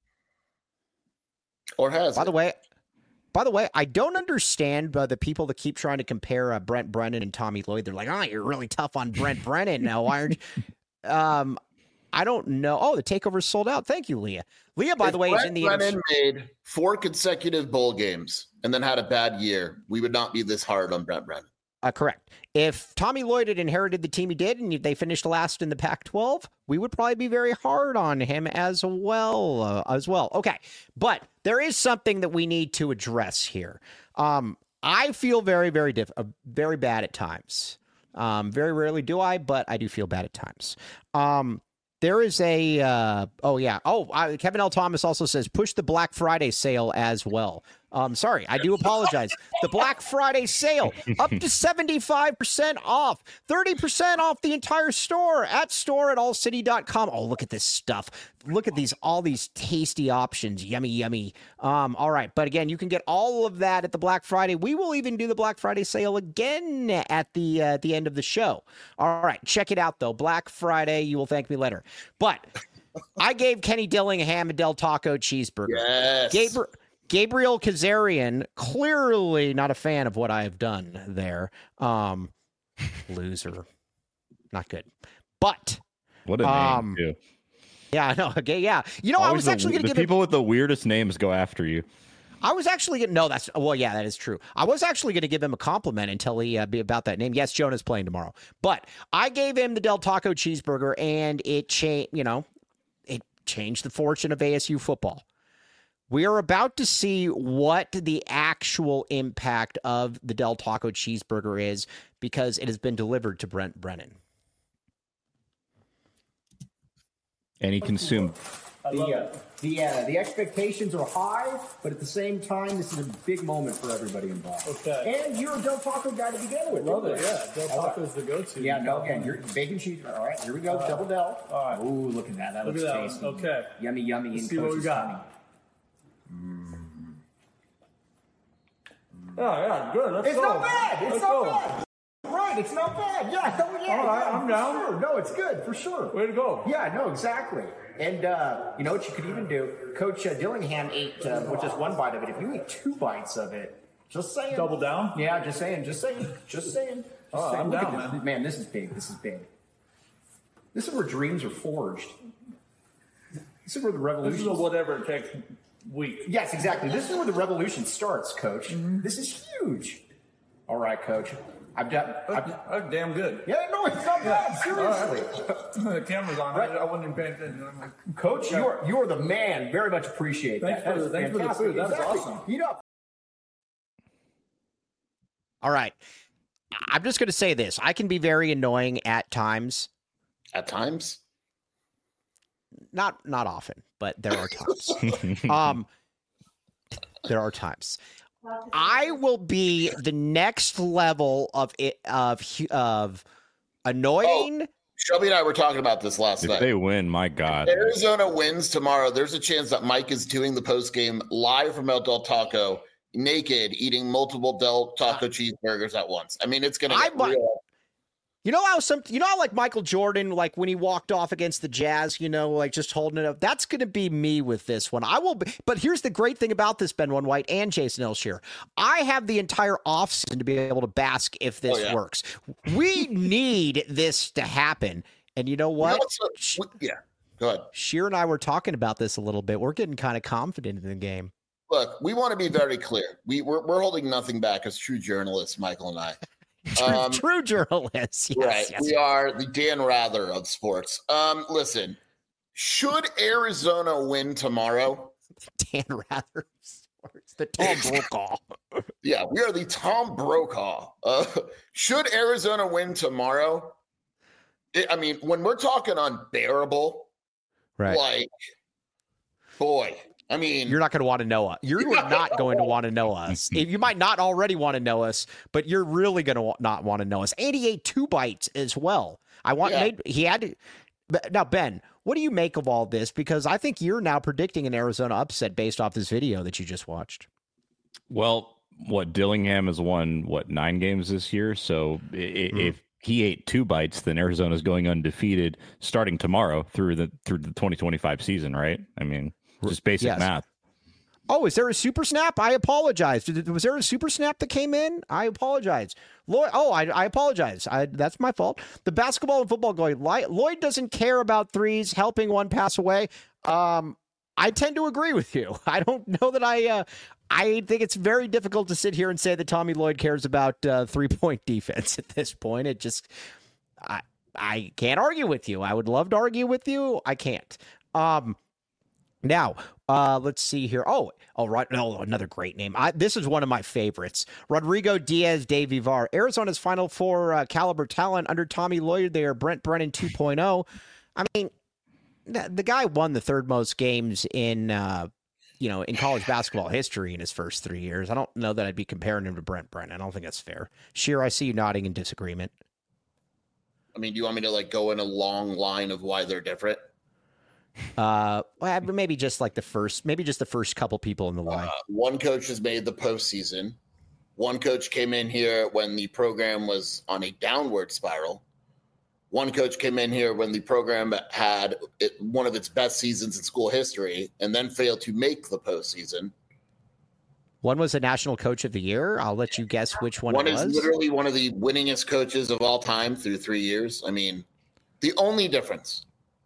has By the way, I don't understand the people that keep trying to compare Brent Brennan and Tommy Lloyd. They're like, oh, you're really tough on Brent Brennan. Now, why aren't you? I don't know. Oh, the takeover's sold out. Thank you, Leah. Leah, by the way, is in the Brennan made 4 consecutive bowl games and then had a bad year. We would not be this hard on Brent Brennan. Correct. If Tommy Lloyd had inherited the team he did and they finished last in the Pac-12, we would probably be very hard on him as well. Okay, but there is something that we need to address here. I feel very, very very bad at times. Very rarely do I, but I do feel bad at times. There is a, Kevin L. Thomas also says, push the Black Friday sale as well. Sorry, I do apologize. The Black Friday sale, up to 75% off, 30% off the entire store at store@allcity.com. Oh, look at this stuff. Look at all these tasty options. Yummy, yummy. All right. But again, you can get all of that at the Black Friday. We will even do the Black Friday sale again at the end of the show. All right. Check it out, though. Black Friday. You will thank me later. But I gave Kenny Dillingham a Del Taco cheeseburger. Yes. Gabriel Kazarian, clearly not a fan of what I have done there. Loser. Not good. But what a name, too. Yeah, I know. Okay, yeah. I was actually going to give people with the weirdest names go after you. I was actually going to, that is true. I was actually going to give him a compliment and tell he about that name. Yes, Jonah's playing tomorrow. But I gave him the Del Taco cheeseburger, and it changed the fortune of ASU football. We are about to see what the actual impact of the Del Taco cheeseburger is because it has been delivered to Brent Brennan. And he consumed. The expectations are high, but at the same time, this is a big moment for everybody involved. Okay. And you're a Del Taco guy to begin with. Love it, yeah. Del Taco's the go-to. Yeah, no, again, you're bacon cheese. All right, here we go. Double Del. All right. Ooh, look at that. That looks tasty. Okay. Yummy, yummy. Let's see what we got. Yeah, good. It's not bad. It's not bad. Right, it's not bad. Yeah, all right, I'm down. Sure. No, it's good, for sure. Way to go. Yeah, no, exactly. And you know what you could even do? Coach Dillingham ate with just 1 bite of it. If you eat 2 bites of it, just saying. Double down? Yeah, just saying. Oh, I'm down, man. Man, this is big. This is where dreams are forged. This is where the revolution. This is a whatever it takes week. Yes, exactly. This is where the revolution starts, Coach. Mm-hmm. This is huge. All right, Coach. That's damn good. Yeah, no, it's not bad. Seriously. Right. The camera's on. Right. I wasn't even paying attention. I'm like, Coach, you are the man. Very much appreciate that. Thanks for the food. That's awesome. Eat up. All right. I'm just going to say this. I can be very annoying at times. At times? Not often, but there are times. There are times. I will be the next level of annoying. Shelby and I were talking about this last night. If they win, my God. If Arizona wins tomorrow, there's a chance that Mike is doing the post game live from El Del Taco, naked, eating multiple Del Taco cheeseburgers at once. I mean, it's going to get real. You know how like Michael Jordan, like when he walked off against the Jazz, like just holding it up. That's going to be me with this one. I will be, but here's the great thing about this, Ben One White and Jason Elshier. I have the entire offseason to be able to bask if this works. We need this to happen. And you know what? Go ahead. Sheer and I were talking about this a little bit. We're getting kind of confident in the game. Look, we want to be very clear. We're holding nothing back as true journalists, Michael and I. True journalists. Yes, right. Yes. We are the Dan Rather of sports. Listen, should Arizona win tomorrow? Dan Rather of sports. The Tom Brokaw. Yeah, we are the Tom Brokaw. Should Arizona win tomorrow? When we're talking unbearable, right? Like, boy. You're not going to want to know us. You're not going to want to know us. You might not already want to know us, but you're really going to not want to know us. And he ate 2 bites as well. He had to. Now, Ben, what do you make of all this? Because I think you're now predicting an Arizona upset based off this video that you just watched. Well, Dillingham has won 9 games this year. So if he ate 2 bites, then Arizona's going undefeated starting tomorrow through the 2025 season, right? Just basic math. Oh, is there a super snap? I apologize. Was there a super snap that came in? I apologize. I apologize. That's my fault. The basketball and football going. Lloyd doesn't care about threes, helping one pass away. I tend to agree with you. I don't know that I think it's very difficult to sit here and say that Tommy Lloyd cares about 3-point defense at this point. It just, I can't argue with you. I would love to argue with you. I can't. Now, let's see here. Right. No, another great name. This is one of my favorites. Rodrigo Diaz de Vivar. Arizona's Final Four caliber talent under Tommy Lloyd. They are Brent Brennan 2.0. The guy won the 3rd most games in college basketball history in his first 3 years. I don't know that I'd be comparing him to Brent Brennan. I don't think that's fair. Sheer, I see you nodding in disagreement. Do you want me to go in a long line of why they're different? Maybe just the first couple people in the line. One coach has made the postseason. One coach came in here when the program was on a downward spiral. One coach came in here when the program had one of its best seasons in school history and then failed to make the postseason. One was a national coach of the year. I'll let you guess which one it was. One is literally one of the winningest coaches of all time through 3 years. The only difference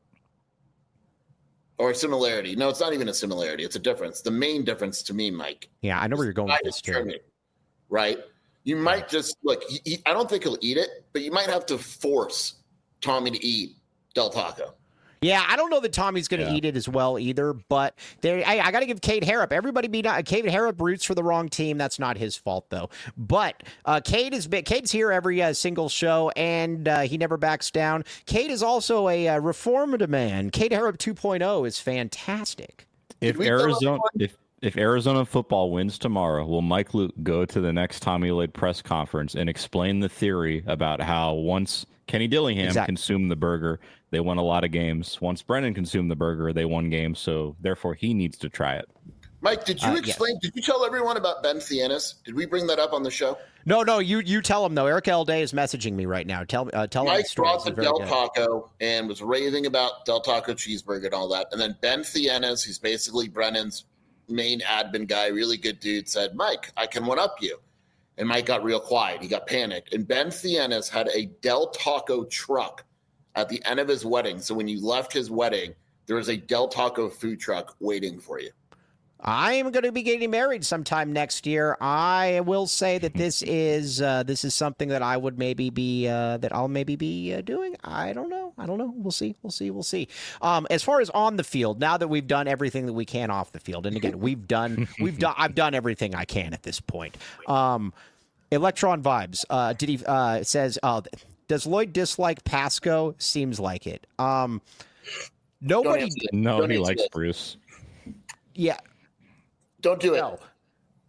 or similarity. No, it's not even a similarity. It's a difference. The main difference to me, Mike. Yeah, I know where you're going with this, too. Right? You might just, I don't think he'll eat it, but you miite have to force Tommy to eat Del Taco. Yeah, I don't know that Tommy's going to eat it as well either, but I got to give Cade Harrop. Everybody Cade Harrop roots for the wrong team. That's not his fault, though. But Cade's here every single show, and he never backs down. Cade is also a reformed man. Cade Harrop 2.0 is fantastic. If Arizona football wins tomorrow, will Mike Luke go to the next Tommy Lloyd press conference and explain the theory about how once Kenny Dillingham consumed the burger, they won a lot of games. Once Brennan consumed the burger, they won games. So therefore, he needs to try it. Mike, did you explain? Yes. Did you tell everyone about Ben Thienes? Did we bring that up on the show? No. You tell him though. Eric L. Day is messaging me right now. Tell Mike him. Mike brought the Del Taco and was raving about Del Taco cheeseburger and all that. And then Ben Thienes, who's basically Brennan's main admin guy, really good dude, said, "Mike, I can one up you." And Mike got real quiet. He got panicked. And Ben Thienes had a Del Taco truck at the end of his wedding. So when you left his wedding, there was a Del Taco food truck waiting for you. I'm going to be getting married sometime next year. I will say that this is something that I would maybe be I'll maybe be doing. I don't know. We'll see. As far as on the field, now that we've done everything that we can off the field, and again, I've done everything I can at this point. Electron Vibes. Says, does Lloyd dislike Pasco? Seems like it. Nobody. No, he likes Bruce. Yeah. Don't do it. No.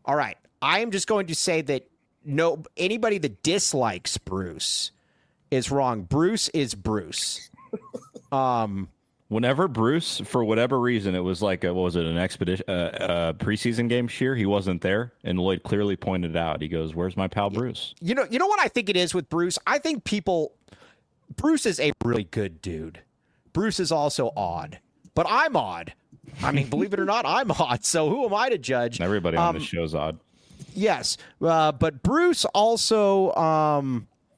All right. I am just going to say that anybody that dislikes Bruce is wrong. Bruce is Bruce. Whenever Bruce, for whatever reason, it was like an expedition, preseason game. Sheer, he wasn't there, and Lloyd clearly pointed out. He goes, "Where's my pal Bruce?" You know what I think it is with Bruce. I think Bruce is a really good dude. Bruce is also odd, but I'm odd. I mean, believe it or not, I'm odd. So who am I to judge? Everybody on the show's odd. Yes, but Bruce also,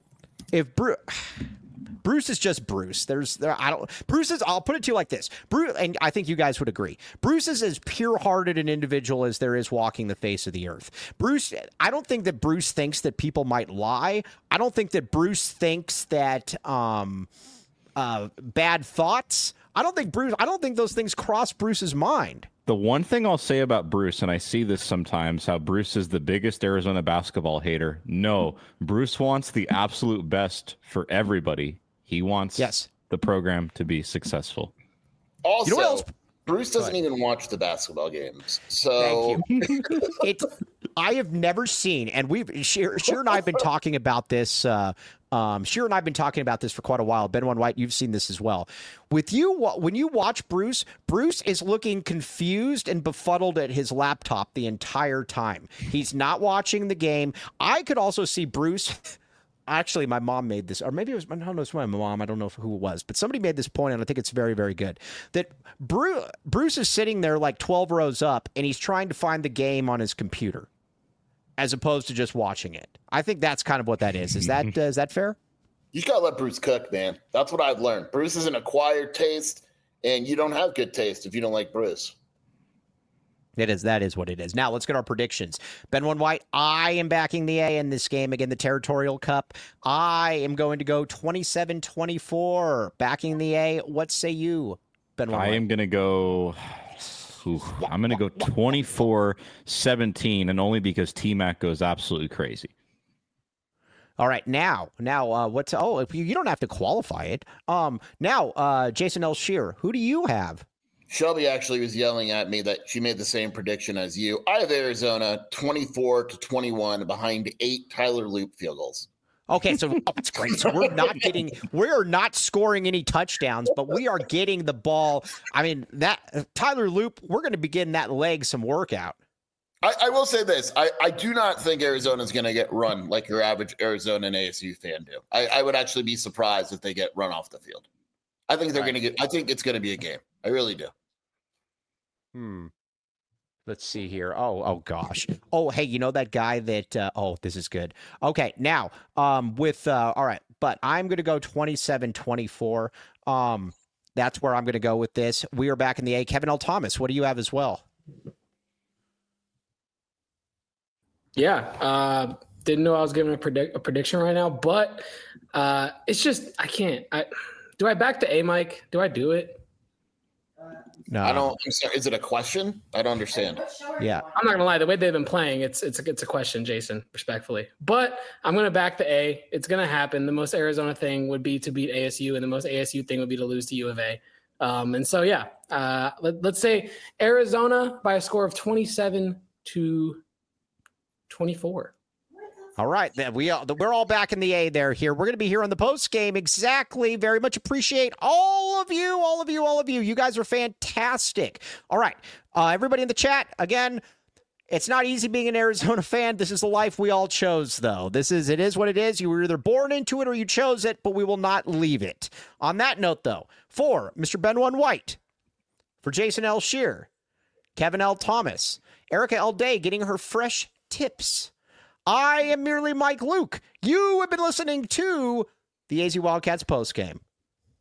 Bruce is just Bruce. I'll put it to you like this. Bruce, and I think you guys would agree. Bruce is as pure-hearted an individual as there is walking the face of the earth. Bruce, I don't think that Bruce thinks that people might lie. I don't think that Bruce thinks that bad thoughts. I don't think those things cross Bruce's mind. The one thing I'll say about Bruce, and I see this sometimes, how Bruce is the biggest Arizona basketball hater. No, Bruce wants the absolute best for everybody. He wants the program to be successcul. Also, you know what else? Bruce doesn't even watch the basketball games. So thank you. I have never seen, and Sheer and I have been talking about this. Sheer and I have been talking about this for quite a while. Ben One White, you've seen this as well. With you, when you watch Bruce is looking confused and befuddled at his laptop the entire time. He's not watching the game. I could also see Bruce. Actually, my mom made this, or maybe it was, I don't know, it's my mom. I don't know who it was, but somebody made this point, and I think it's very, very good. That Bruce is sitting there like 12 rows up, and he's trying to find the game on his computer, as opposed to just watching it. I think that's kind of what that is. Is that fair? You gotta let Bruce cook, man. That's what I've learned. Bruce is an acquired taste, and you don't have good taste if you don't like Bruce. That is what it is. Now, let's get our predictions. Ben One White, I am backing the A in this game. Again, the Territorial Cup. I am going to go 27-24, backing the A. What say you, Ben One White? I am going to go... I'm going to go 24-17, and only because T-Mac goes absolutely crazy. All right, now, what's... Oh, you don't have to qualify it. Now, Jason L. Shearer, who do you have? Shelby actually was yelling at me that she made the same prediction as you. I have Arizona 24-21 behind 8 Tyler Loop field goals. Okay, so that's great. So we're not scoring any touchdowns, but we are getting the ball. I mean, that Tyler Loop, we're going to begin that leg some workout. I will say this. I do not think Arizona is going to get run like your average Arizona and ASU fan do. I would actually be surprised if they get run off the field. I think I think it's going to be a game. I really do. Let's see here. Oh gosh. Oh, hey, you know that guy that, this is good. Okay. Now, all right, but I'm going to go 27-24. That's where I'm going to go with this. We are back in the A. Kevin L. Thomas, what do you have as well? Yeah. Didn't know I was giving a prediction right now, but it's just, I can't. Do I back the A, Mike? Do I do it? No. I'm sorry, is it a question? I don't understand. Yeah. I'm not gonna lie. The way they've been playing, it's a question, Jason, respectfully. But I'm gonna back the A. It's gonna happen. The most Arizona thing would be to beat ASU, and the most ASU thing would be to lose to U of A. And so yeah, let's say Arizona by a score of 27-24. All right, we're all back in the A there here. We're going to be here on the post game. Exactly. Very much appreciate all of you. You guys are fantastic. All right, everybody in the chat, again, it's not easy being an Arizona fan. This is the life we all chose, though. It is what it is. You were either born into it or you chose it, but we will not leave it. On that note, though, for Mr. Ben One White, for Jason L. Shearer, Kevin L. Thomas, Erica L. Day getting her fresh tips, I am merely Mike Luke. You have been listening to the AZ Wildcats postgame.